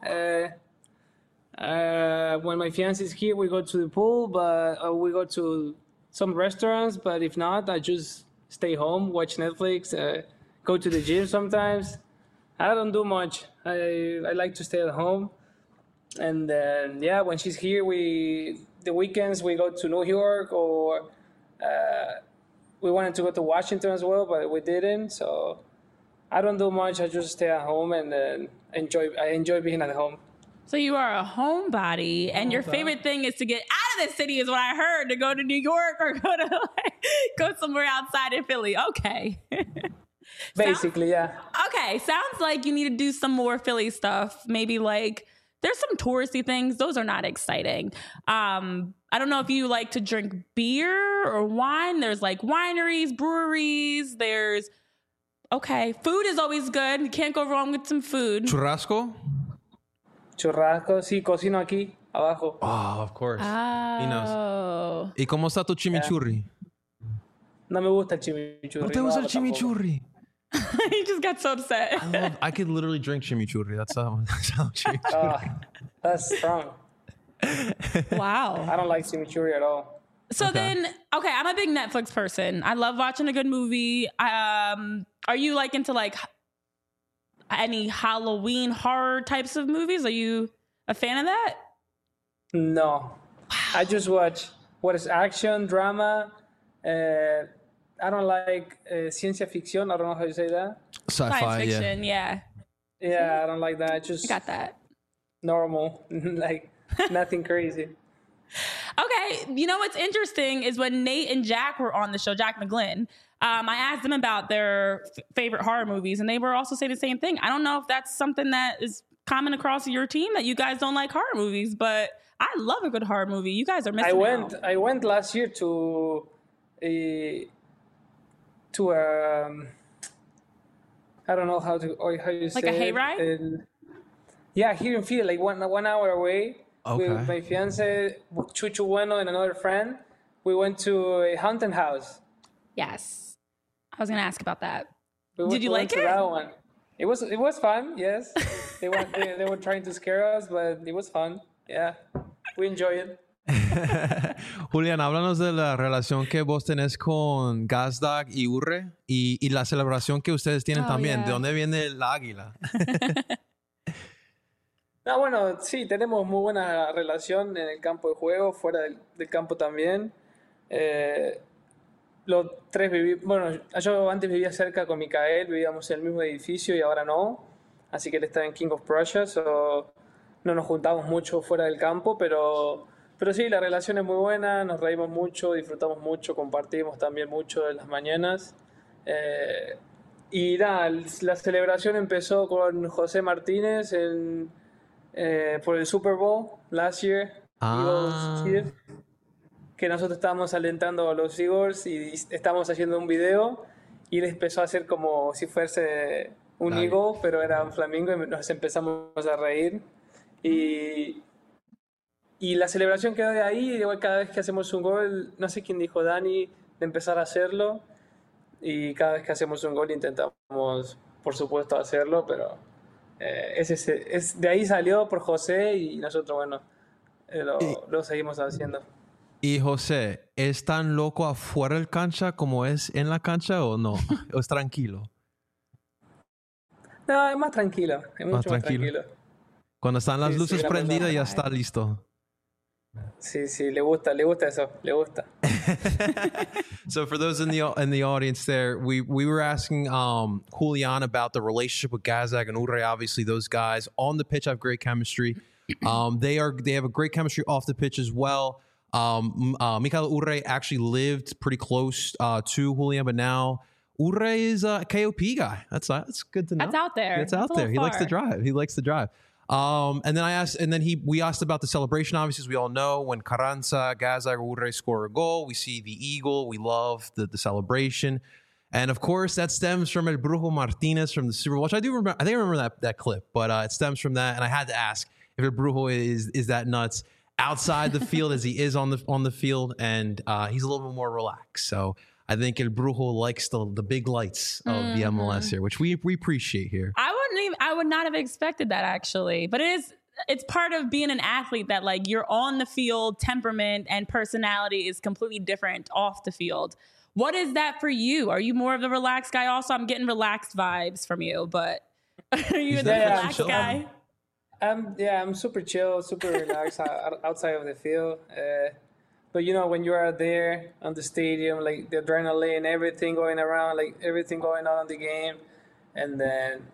S4: When my fiance is here, we go to the pool, but we go to some restaurants. But if not, I just stay home, watch Netflix, go to the gym sometimes. I don't do much. I like to stay at home. And when she's here, the weekends we go to New York, or we wanted to go to Washington as well, but we didn't. So I don't do much. I just stay at home and I enjoy being at home.
S1: So you are a homebody, and your favorite thing is to get out of the city, is what I heard, to go to New York or go somewhere outside of Philly. Okay.
S4: Basically, yeah.
S1: Okay, sounds like you need to do some more Philly stuff. Maybe like there's some touristy things. Those are not exciting. I don't know if you like to drink beer or wine. There's like wineries, breweries. Food is always good. You can't go wrong with some food.
S3: Churrasco?
S4: Churrasco, sí, cocino aquí, abajo.
S3: Oh, of course.
S1: Oh.
S3: He knows. ¿Y cómo está tu chimichurri?
S4: No me gusta el chimichurri.
S3: ¿No te gusta el chimichurri?
S1: He just got so upset.
S3: I could literally drink chimichurri. That's how chimichurri.
S4: That's strong.
S1: Wow.
S4: I don't like chimichurri at all.
S1: So then, I'm a big Netflix person. I love watching a good movie. Are you like into like any Halloween horror types of movies? Are you a fan of that?
S4: No. Wow. I just watch what is action, drama. I don't like ciencia ficción. I don't know how you say that.
S3: Sci-fi,
S1: science fiction, yeah.
S4: Yeah, I don't like that. I just
S1: got that.
S4: Normal, like nothing crazy.
S1: Okay, you know what's interesting is when Nate and Jack were on the show, Jack McGlynn, I asked them about their favorite horror movies, and they were also saying the same thing. I don't know if that's something that is common across your team, that you guys don't like horror movies, but I love a good horror movie. You guys are missing out.
S4: I went last year to I don't know how you say
S1: like a hayride?
S4: Yeah, here in Philly, like one hour away.
S3: Okay.
S4: With my fiance, Chuchu Bueno, and another friend. We went to a haunted house.
S1: Yes. I was going to ask about that.
S4: Did
S1: you like it?
S4: That one. It was fun, yes. they were trying to scare us, but it was fun. Yeah, we enjoyed it.
S3: Julián, háblanos de la relación que vos tenés con Gazdag y Urre y la celebración que ustedes tienen también.
S1: Yeah.
S3: ¿De dónde viene el águila?
S4: No, bueno, sí, tenemos muy buena relación en el campo de juego, fuera del campo también. Los tres yo antes vivía cerca con Micael, vivíamos en el mismo edificio y ahora no. Así que él está en King of Prussia, no nos juntamos mucho fuera del campo, pero sí, la relación es muy buena, nos reímos mucho, disfrutamos mucho, compartimos también mucho en las mañanas. Y nada, la celebración empezó con José Martínez por el Super Bowl last year, Eagles Chiefs, que nosotros estábamos alentando a los Eagles y estábamos haciendo un video y él empezó a hacer como si fuese un Eagle, pero era un flamingo, y nos empezamos a reír. Y la celebración quedó de ahí, y cada vez que hacemos un gol, no sé quién dijo, Dani, de empezar a hacerlo, y cada vez que hacemos un gol intentamos, por supuesto, hacerlo, pero de ahí salió por José y nosotros, bueno, lo seguimos haciendo.
S3: Y José, ¿es tan loco afuera del cancha como es en la cancha o no? ¿O es tranquilo?
S4: No, es más tranquilo, es mucho más tranquilo.
S3: Cuando están las luces prendidas ya está listo.
S4: Sí, le gusta eso, le gusta.
S3: So for those in the audience there, we were asking Julián about the relationship with Gazdag and Urre. Obviously, those guys on the pitch have great chemistry. They have a great chemistry off the pitch as well. Michael Urre actually lived pretty close to Julián, but now Urre is a KOP guy. That's good to know.
S1: That's out there.
S3: That's out there. He likes to drive. And then we asked about the celebration. Obviously, as we all know, when Carranza, Gaza, or Urre score a goal, we see the eagle. We love the celebration. And of course, that stems from El Brujo Martinez from the Super Bowl, which I remember that clip, but it stems from that. And I had to ask if El Brujo is that nuts outside the field as he is on the field, and he's a little bit more relaxed. So I think El Brujo likes the big lights of the MLS here, which we appreciate here.
S1: I would not have expected that, actually, but it's part of being an athlete that, like, you're on the field, temperament and personality is completely different off the field. What is that for you? Are you more of the relaxed guy? Also, I'm getting relaxed vibes from you, but are you the relaxed guy?
S4: I'm super chill, super relaxed outside of the field. But when you are there on the stadium, like the adrenaline, everything going around, like everything going on in the game, and then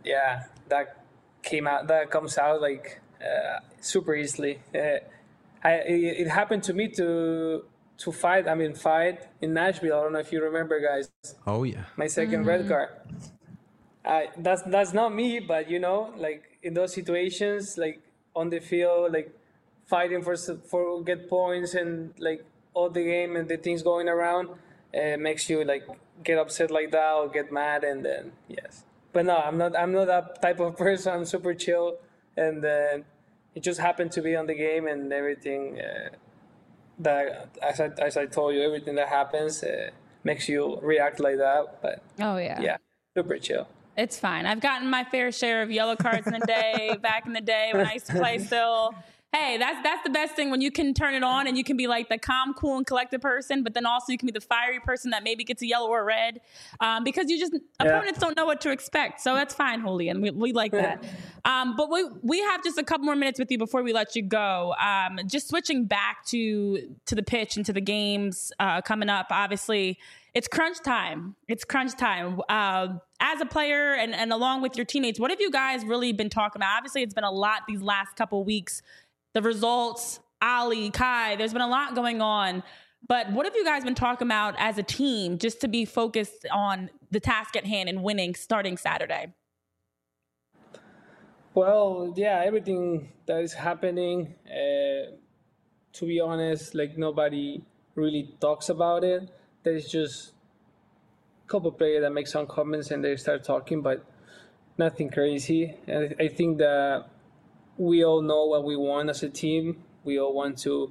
S4: that comes out like super easily. It happened to me to fight in Nashville. I don't know if you remember, guys.
S3: Oh yeah.
S4: My second red card. That's not me, but like in those situations, like on the field, like fighting for get points and like all the game and the things going around, makes you like get upset like that or get mad, and then yes. But no, I'm not that type of person. I'm super chill, and then it just happened to be on the game and everything. That as I told you, everything that happens makes you react like that. But super chill.
S1: It's fine. I've gotten my fair share of yellow cards in the day. Back in the day when I used to play still. Hey, that's the best thing, when you can turn it on and you can be like the calm, cool, and collected person, but then also you can be the fiery person that maybe gets a yellow or red, because opponents don't know what to expect. So that's fine, Julian. We like that. But we have just a couple more minutes with you before we let you go. Just switching back to the pitch and to the games coming up. Obviously, it's crunch time. As a player and along with your teammates, what have you guys really been talking about? Obviously, it's been a lot these last couple weeks. The results, Ali, Kai, there's been a lot going on. But what have you guys been talking about as a team just to be focused on the task at hand and winning starting Saturday?
S4: Well, yeah, everything that is happening, to be honest, like nobody really talks about it. There's just a couple of players that make some comments and they start talking, but nothing crazy. And I think that we all know what we want as a team. We all want to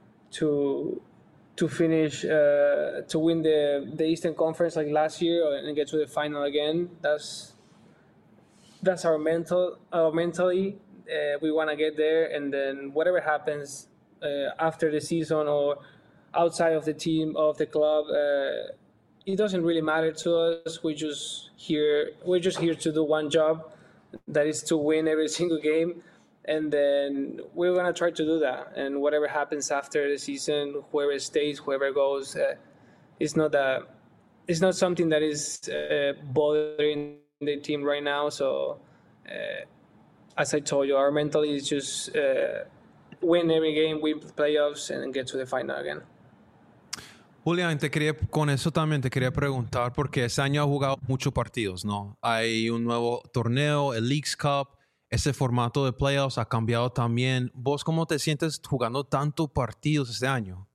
S4: finish, to win the Eastern Conference like last year and get to the final again. That's our mentally. We want to get there, and then whatever happens after the season or outside of the team, of the club, it doesn't really matter to us. We're just here to do one job, that is to win every single game. And then we're going to try to do that. And whatever happens after the season, whoever stays, whoever goes, it's not something that is bothering the team right now. So, as I told you, our mentality is just win every game, win playoffs, and get to the final again.
S3: Julián, con eso también te quería preguntar, porque este año ha jugado muchos partidos, ¿no? Hay un nuevo torneo, el Leagues Cup. Ese formato de playoffs ha cambiado también. ¿Vos cómo te sientes jugando tantos partidos este año?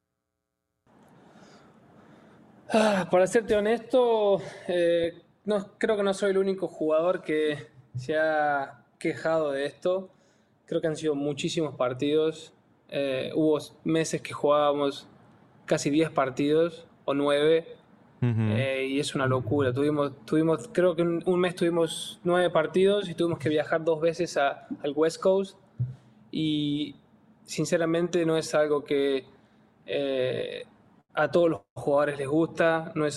S4: Para serte honesto, creo que no soy el único jugador que se ha quejado de esto. Creo que han sido muchísimos partidos. Hubo meses que jugábamos casi 10 partidos o 9. Y es una locura. Tuvimos creo que un mes tuvimos 9 partidos y tuvimos que viajar 2 veces al West Coast, y sinceramente no es algo que a todos los jugadores les gusta, no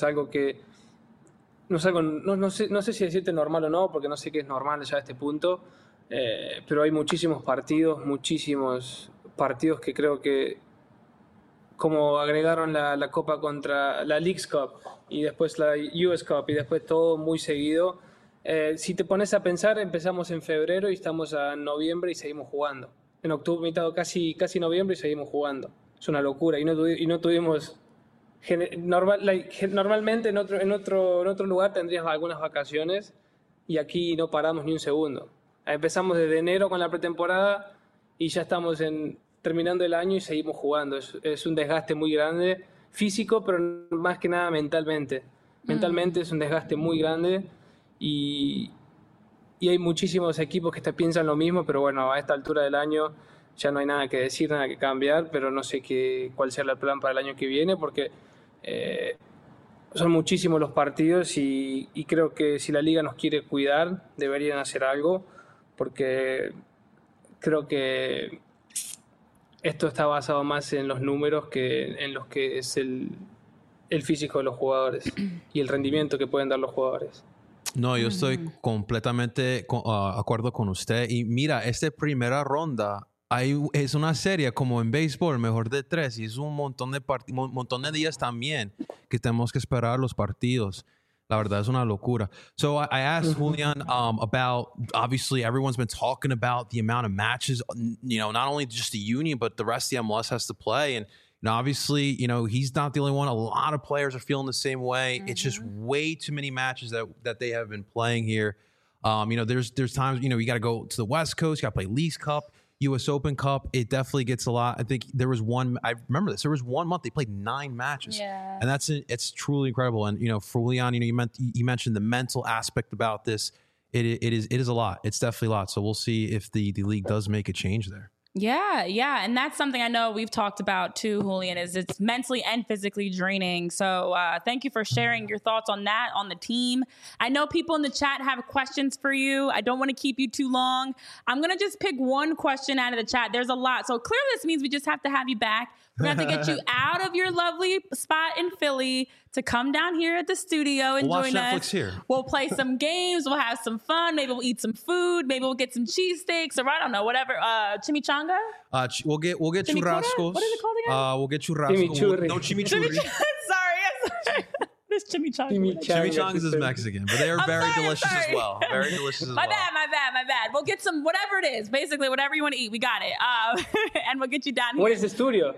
S4: sé si decirte normal o no, porque no sé qué es normal ya a este punto, pero hay muchísimos partidos que creo que, como agregaron la Copa contra la Leagues Cup y después la US Cup y después todo muy seguido. Si te pones a pensar, empezamos en febrero y estamos a noviembre y seguimos jugando. En octubre, casi noviembre, y seguimos jugando. Es una locura. Y no tuvimos Normalmente en otro lugar tendrías algunas vacaciones y aquí no paramos ni un segundo. Empezamos desde enero con la pretemporada y ya estamos terminando el año y seguimos jugando. Es un desgaste muy grande, físico, pero más que nada mentalmente. Mentalmente es un desgaste muy grande y hay muchísimos equipos que piensan lo mismo, pero bueno, a esta altura del año ya no hay nada que decir, nada que cambiar, pero no sé cuál sea el plan para el año que viene, porque son muchísimos los partidos y creo que si la liga nos quiere cuidar, deberían hacer algo, porque creo que esto está basado más en los números que en los que es el físico de los jugadores y el rendimiento que pueden dar los jugadores.
S3: No, yo estoy completamente de acuerdo con usted. Y mira, esta primera ronda es una serie como en béisbol, mejor de 3, y es un montón de días también que tenemos que esperar los partidos. La verdad es una locura. So I asked Julian about, obviously everyone's been talking about the amount of matches, not only just the union, but the rest of the MLS has to play. And obviously, he's not the only one. A lot of players are feeling the same way. It's just way too many matches that they have been playing here. There's times, you got to go to the West Coast, you got to play Leagues Cup, U.S. Open Cup. It definitely gets a lot. I think there was I remember this. There was 1 month they played 9 matches. Yeah. And it's truly incredible. And, for Julian, you mentioned the mental aspect about this. It is a lot. It's definitely a lot. So we'll see if the league does make a change there.
S1: Yeah. And that's something I know we've talked about too, Julian, is it's mentally and physically draining. So thank you for sharing your thoughts on that, on the team. I know people in the chat have questions for you. I don't want to keep you too long. I'm going to just pick one question out of the chat. There's a lot. So clearly this means we just have to have you back. We're going to have to get you out of your lovely spot in Philly to come down here at the studio and join us.
S3: Netflix here.
S1: We'll play some games. We'll have some fun. Maybe we'll eat some food. Maybe we'll get some cheesesteaks or I don't know, whatever. Chimichanga?
S3: We'll get churrascos.
S1: What is it called again?
S3: We'll get churrascos. No chimichurri.
S1: Sorry. This chimichanga.
S3: Chimichangas is Mexican, but they are very delicious as well. Very delicious as well.
S1: My bad. We'll get some, whatever it is. Basically, whatever you want to eat, we got it. And we'll get you down here.
S4: What is the studio?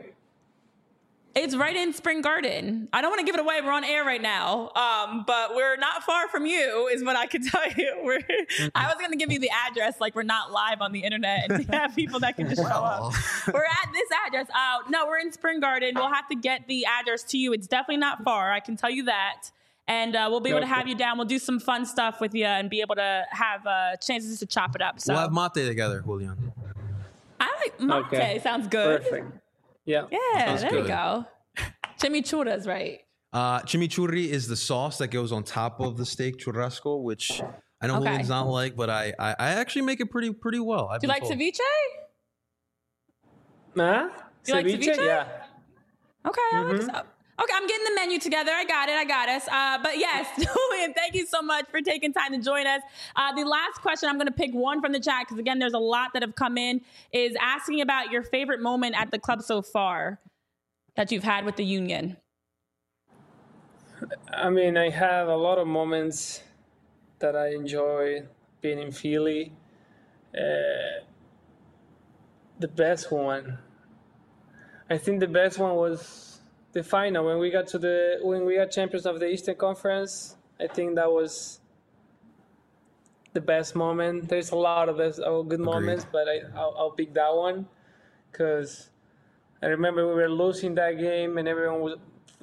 S1: It's right in Spring Garden. I don't want to give it away. We're on air right now. But we're not far from you is what I can tell you. I was going to give you the address. Like we're not live on the internet and have people that can just show up. We're at this address. No, we're in Spring Garden. We'll have to get the address to you. It's definitely not far. I can tell you that. And we'll be able to have you down. We'll do some fun stuff with you and be able to have chances to chop it up. So
S3: we'll have mate together, Julian.
S1: I like mate. Okay. Sounds good.
S4: Perfect. Yeah,
S1: there you go. Chimichurras, right?
S3: Chimichurri is the sauce that goes on top of the steak churrasco, which I know Julian's not like, but I actually make it pretty well.
S1: Do you like ceviche?
S4: Huh?
S1: Do you like ceviche?
S4: Yeah.
S1: Okay, I like this. Okay, I'm getting the menu together. I got us. But yes, Julian, thank you so much for taking time to join us. The last question, I'm going to pick one from the chat because, again, there's a lot that have come in, is asking about your favorite moment at the club so far that you've had with the union.
S4: I mean, I have a lot of moments that I enjoy being in Philly. The best one, I think the best one was the final when we got champions of the Eastern Conference. I think that was the best moment. There's a lot of good moments, but I'll pick that one because I remember we were losing that game, and everyone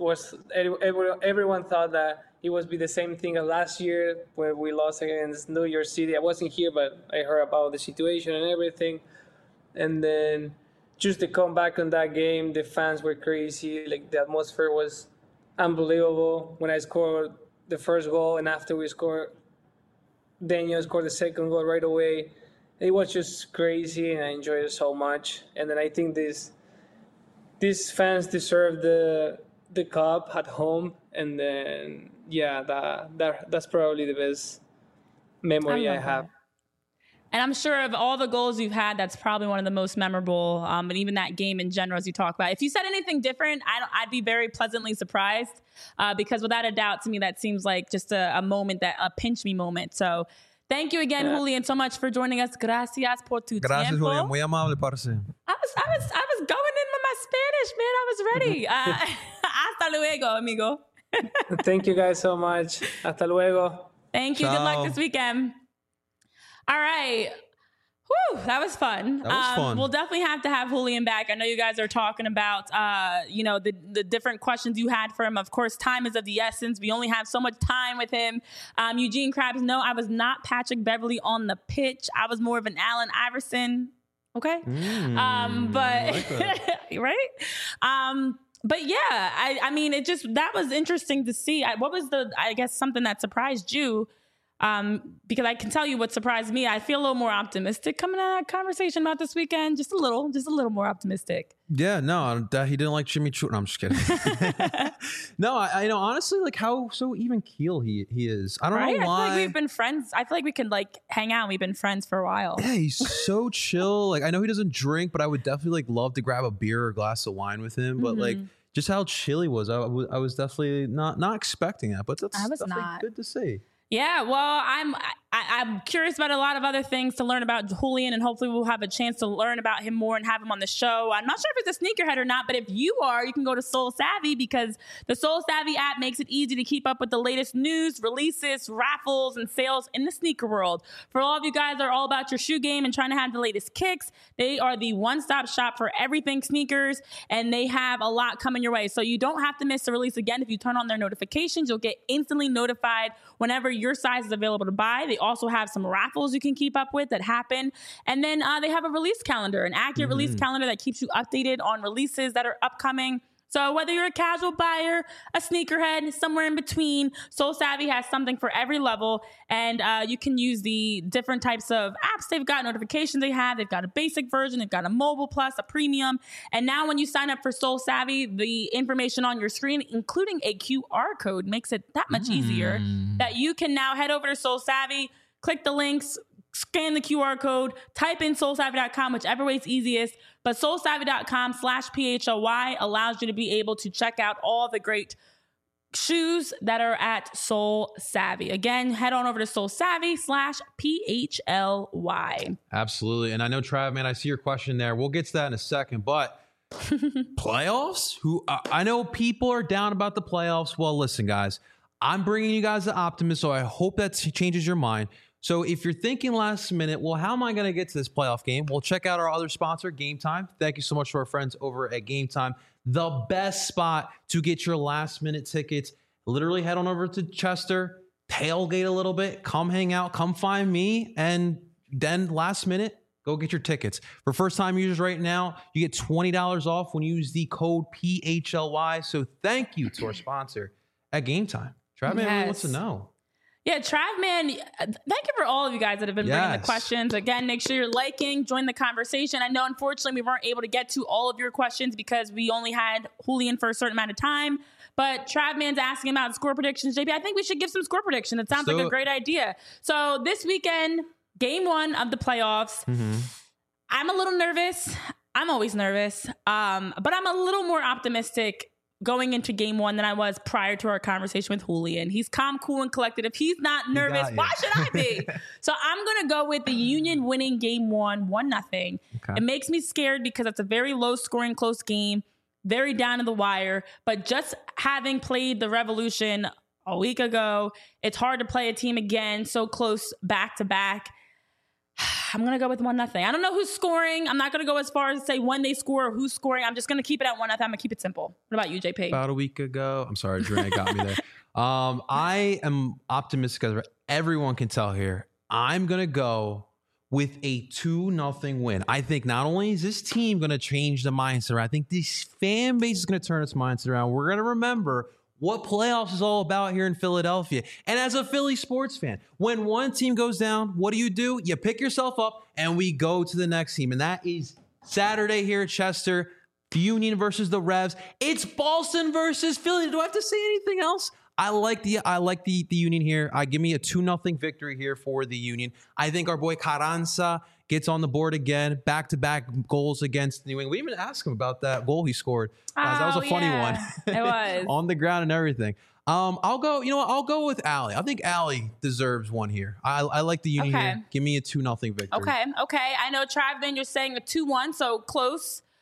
S4: thought that it would be the same thing as last year where we lost against New York City. I wasn't here, but I heard about the situation and everything. And then just to come back on that game, the fans were crazy. Like the atmosphere was unbelievable. When I scored the first goal, and after we scored, Daniel scored the second goal right away. It was just crazy, and I enjoyed it so much. And then I think these fans deserve the cup at home, and then that's probably the best memory I have.
S1: And I'm sure of all the goals you've had, that's probably one of the most memorable. And even that game in general, as you talk about. If you said anything different, I'd be very pleasantly surprised because without a doubt, to me, that seems like just a moment, a pinch me moment. So thank you again, Julian, so much for joining us. Gracias por tu
S3: Gracias,
S1: tiempo.
S3: Julian. Muy amable, parce.
S1: I was going in with my Spanish, man. I was ready. Hasta Hasta luego, amigo.
S4: Thank you guys so much. Hasta luego.
S1: Thank you.
S3: Ciao.
S1: Good luck this weekend. All right. Whew, that was fun.
S3: That was fun.
S1: We'll definitely have to have Julian back. I know you guys are talking about, the different questions you had for him. Of course, time is of the essence. We only have so much time with him. Eugene Krabs, no, I was not Patrick Beverley on the pitch. I was more of an Allen Iverson. Okay.
S3: like
S1: Right. But yeah, I mean, that was interesting to see. What was something that surprised you? Because I can tell you what surprised me. I feel a little more optimistic coming out of that conversation about this weekend. Just a little more optimistic.
S3: Yeah, no, he didn't like Jimmy Choo. No, I'm just kidding. No, I know, honestly, like how so even keel he is. I don't know why.
S1: I feel like we've been friends. I feel like we can like hang out. We've been friends for a while.
S3: Yeah, he's so chill. Like I know he doesn't drink, but I would definitely like love to grab a beer or a glass of wine with him. But like just how chill he was, I was definitely not expecting that. But that's definitely good to see.
S1: Yeah, well, I'm curious about a lot of other things to learn about Julian, and hopefully we'll have a chance to learn about him more and have him on the show. I'm not sure if it's a sneakerhead or not, but if you are, you can go to Soul Savvy because the Soul Savvy app makes it easy to keep up with the latest news, releases, raffles, and sales in the sneaker world. For all of you guys that are all about your shoe game and trying to have the latest kicks, they are the one-stop shop for everything sneakers, and they have a lot coming your way. So you don't have to miss a release again. If you turn on their notifications, you'll get instantly notified whenever your size is available to buy. They also have some raffles you can keep up with that happen. And then they have a release calendar, an accurate release calendar that keeps you updated on releases that are upcoming. So whether you're a casual buyer, a sneakerhead, somewhere in between, Soul Savvy has something for every level. And you can use the different types of apps they've got, notifications they have. They've got a basic version. They've got a mobile plus, a premium. And now when you sign up for Soul Savvy, the information on your screen, including a QR code, makes it that much easier that you can now head over to Soul Savvy, click the links, scan the QR code, type in soulsavvy.com, whichever way is easiest. But soulsavvy.com/PHLY allows you to be able to check out all the great shoes that are at Soul Savvy. Again, head on over to soulsavvy/PHLY.
S3: Absolutely. And I know, Trav, man, I see your question there. We'll get to that in a second, but playoffs? I know people are down about the playoffs. Well, listen, guys, I'm bringing you guys the optimism, so I hope that changes your mind. So if you're thinking last minute, well, how am I going to get to this playoff game? Well, check out our other sponsor, Game Time. Thank you so much to our friends over at Game Time. The best spot to get your last minute tickets. Literally head on over to Chester, tailgate a little bit, come hang out, come find me, and then last minute, go get your tickets. For first-time users right now, you get $20 off when you use the code PHLY. So thank you to our sponsor at Game Time. Trav, man, really wants to know.
S1: Yeah, Trav, man, thank you for all of you guys that have been bringing the questions. Again, make sure you're liking, join the conversation. I know, unfortunately, we weren't able to get to all of your questions because we only had Julian for a certain amount of time. But Trav, man's asking about score predictions. JP, I think we should give some score predictions. It sounds like a great idea. So this weekend, game 1 of the playoffs. I'm a little nervous. I'm always nervous. But I'm a little more optimistic going into game 1 than I was prior to our conversation with Julian. He's calm, cool, and collected. If he's not nervous, why should I be? So I'm going to go with the Union winning game 1, 1-0. Okay. It makes me scared because it's a very low scoring, close game, very down to the wire. But just having played the Revolution a week ago, it's hard to play a team again so close back to back. I'm going to go with 1-0. I don't know who's scoring. I'm not going to go as far as to say when they score or who's scoring. I'm just going to keep it at 1-0. I'm going to keep it simple. What about you, JP?
S3: About a week ago. I'm sorry, Dre got me there. I am optimistic as everyone can tell here. I'm going to go with a 2-0 win. I think not only is this team going to change the mindset around, I think this fan base is going to turn its mindset around. We're going to remember what playoffs is all about here in Philadelphia. And as a Philly sports fan, when one team goes down, what do? You pick yourself up and we go to the next team. And that is Saturday here at Chester, the Union versus the Revs. It's Boston versus Philly. Do I have to say anything else? I like the Union here. Give me a 2-0 victory here for the Union. I think our boy Carranza gets on the board again, back-to-back goals against New England. We didn't even ask him about that goal he scored. That was a funny one.
S1: It was.
S3: On the ground and everything. I'll go with Allie. I think Allie deserves one here. I like the Union here. Give me a 2-0 victory.
S1: Okay. I know, Trav, then you're saying a 2-1, so close.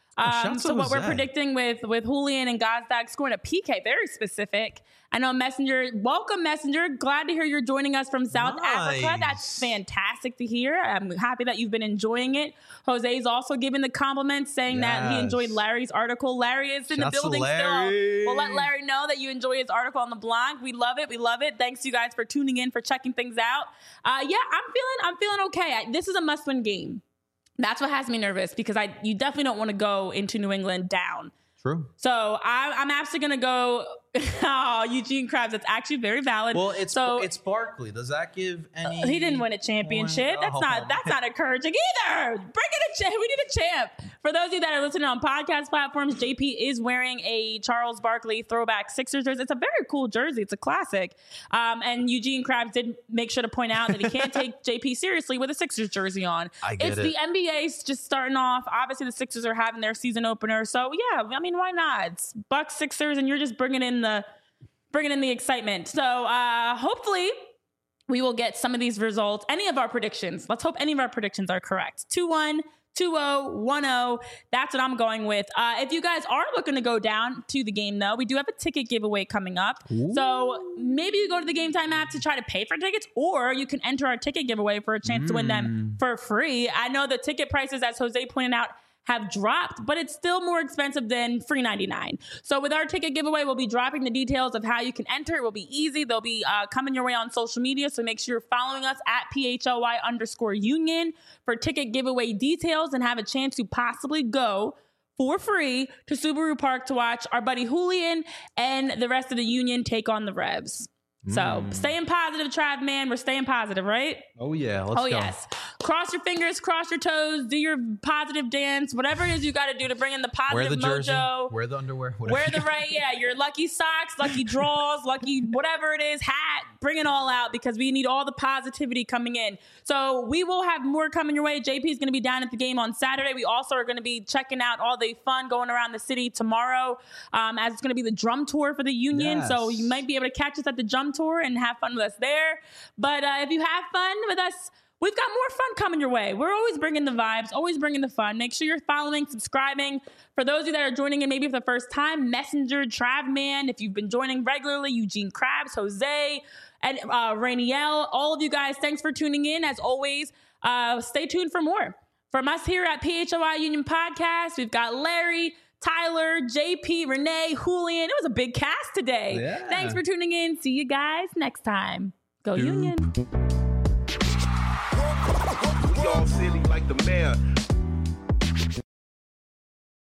S3: Shouts
S1: So
S3: to
S1: what we're
S3: Jose.
S1: predicting with Julian and Gazdag scoring a PK, very specific. I know Messenger, welcome Messenger. Glad to hear you're joining us from South Africa. That's fantastic to hear. I'm happy that you've been enjoying it. Jose's also giving the compliments, saying that he enjoyed Larry's article. Larry is in the building still. We'll let Larry know that you enjoy his article on the blog. We love it. We love it. Thanks you guys for tuning in, for checking things out. I'm feeling okay. This is a must-win game. That's what has me nervous, because you definitely don't want to go into New England down.
S3: True.
S1: So I'm actually going to go. Oh, Eugene Krabs. That's actually very valid.
S3: Well, it's Barkley. Does that give any?
S1: He didn't win a championship. That's not encouraging either. Bring in a champ. We need a champ. For those of you that are listening on podcast platforms, JP is wearing a Charles Barkley throwback Sixers jersey. It's a very cool jersey. It's a classic. And Eugene Krabs did make sure to point out that he can't take JP seriously with a Sixers jersey on.
S3: It's
S1: the NBA's just starting off. Obviously, the Sixers are having their season opener. So yeah, I mean, why not? It's Bucks Sixers, and you're just bringing in the excitement. So hopefully we will get some of these results. Any of our predictions. Let's hope any of our predictions are correct. 2-1, 2-0, 1-0. That's what I'm going with. If you guys are looking to go down to the game, though, we do have a ticket giveaway coming up. Ooh. So maybe you go to the Game Time app to try to pay for tickets, or you can enter our ticket giveaway for a chance to win them for free. I know the ticket prices, as Jose pointed out, have dropped, but it's still more expensive than free 99. So with our ticket giveaway, we'll be dropping the details of how you can enter. It will be easy. They'll be coming your way on social media. So make sure you're following us at PHLY_union for ticket giveaway details and have a chance to possibly go for free to Subaru Park to watch our buddy Julian and the rest of the Union take on the Revs. So staying positive, Trav, man. We're staying positive, right?
S3: Oh, yeah. Let's go.
S1: Yes. Cross your fingers, cross your toes, do your positive dance, whatever it is you got to do to bring in the positive mojo.
S3: Wear the underwear.
S1: Wear the your lucky socks, lucky draws, lucky whatever it is, hat. Bring it all out, because we need all the positivity coming in. So we will have more coming your way. JP is going to be down at the game on Saturday. We also are going to be checking out all the fun going around the city tomorrow, as it's going to be the drum tour for the Union. Yes. So you might be able to catch us at the drum tour and have fun with us there. But if you have fun with us, we've got more fun coming your way. We're always bringing the vibes, always bringing the fun. Make sure you're following, subscribing. For those of you that are joining in maybe for the first time, Messenger, Travman. If you've been joining regularly, Eugene Krabs, Jose, and Rainiel, all of you guys, thanks for tuning in. As always, stay tuned for more. From us here at PHLY Union Podcast, we've got Larry, Tyler, JP, Renee, Julian. It was a big cast today. Yeah. Thanks for tuning in. See you guys next time. Go Union.
S5: Y'all silly like the mayor.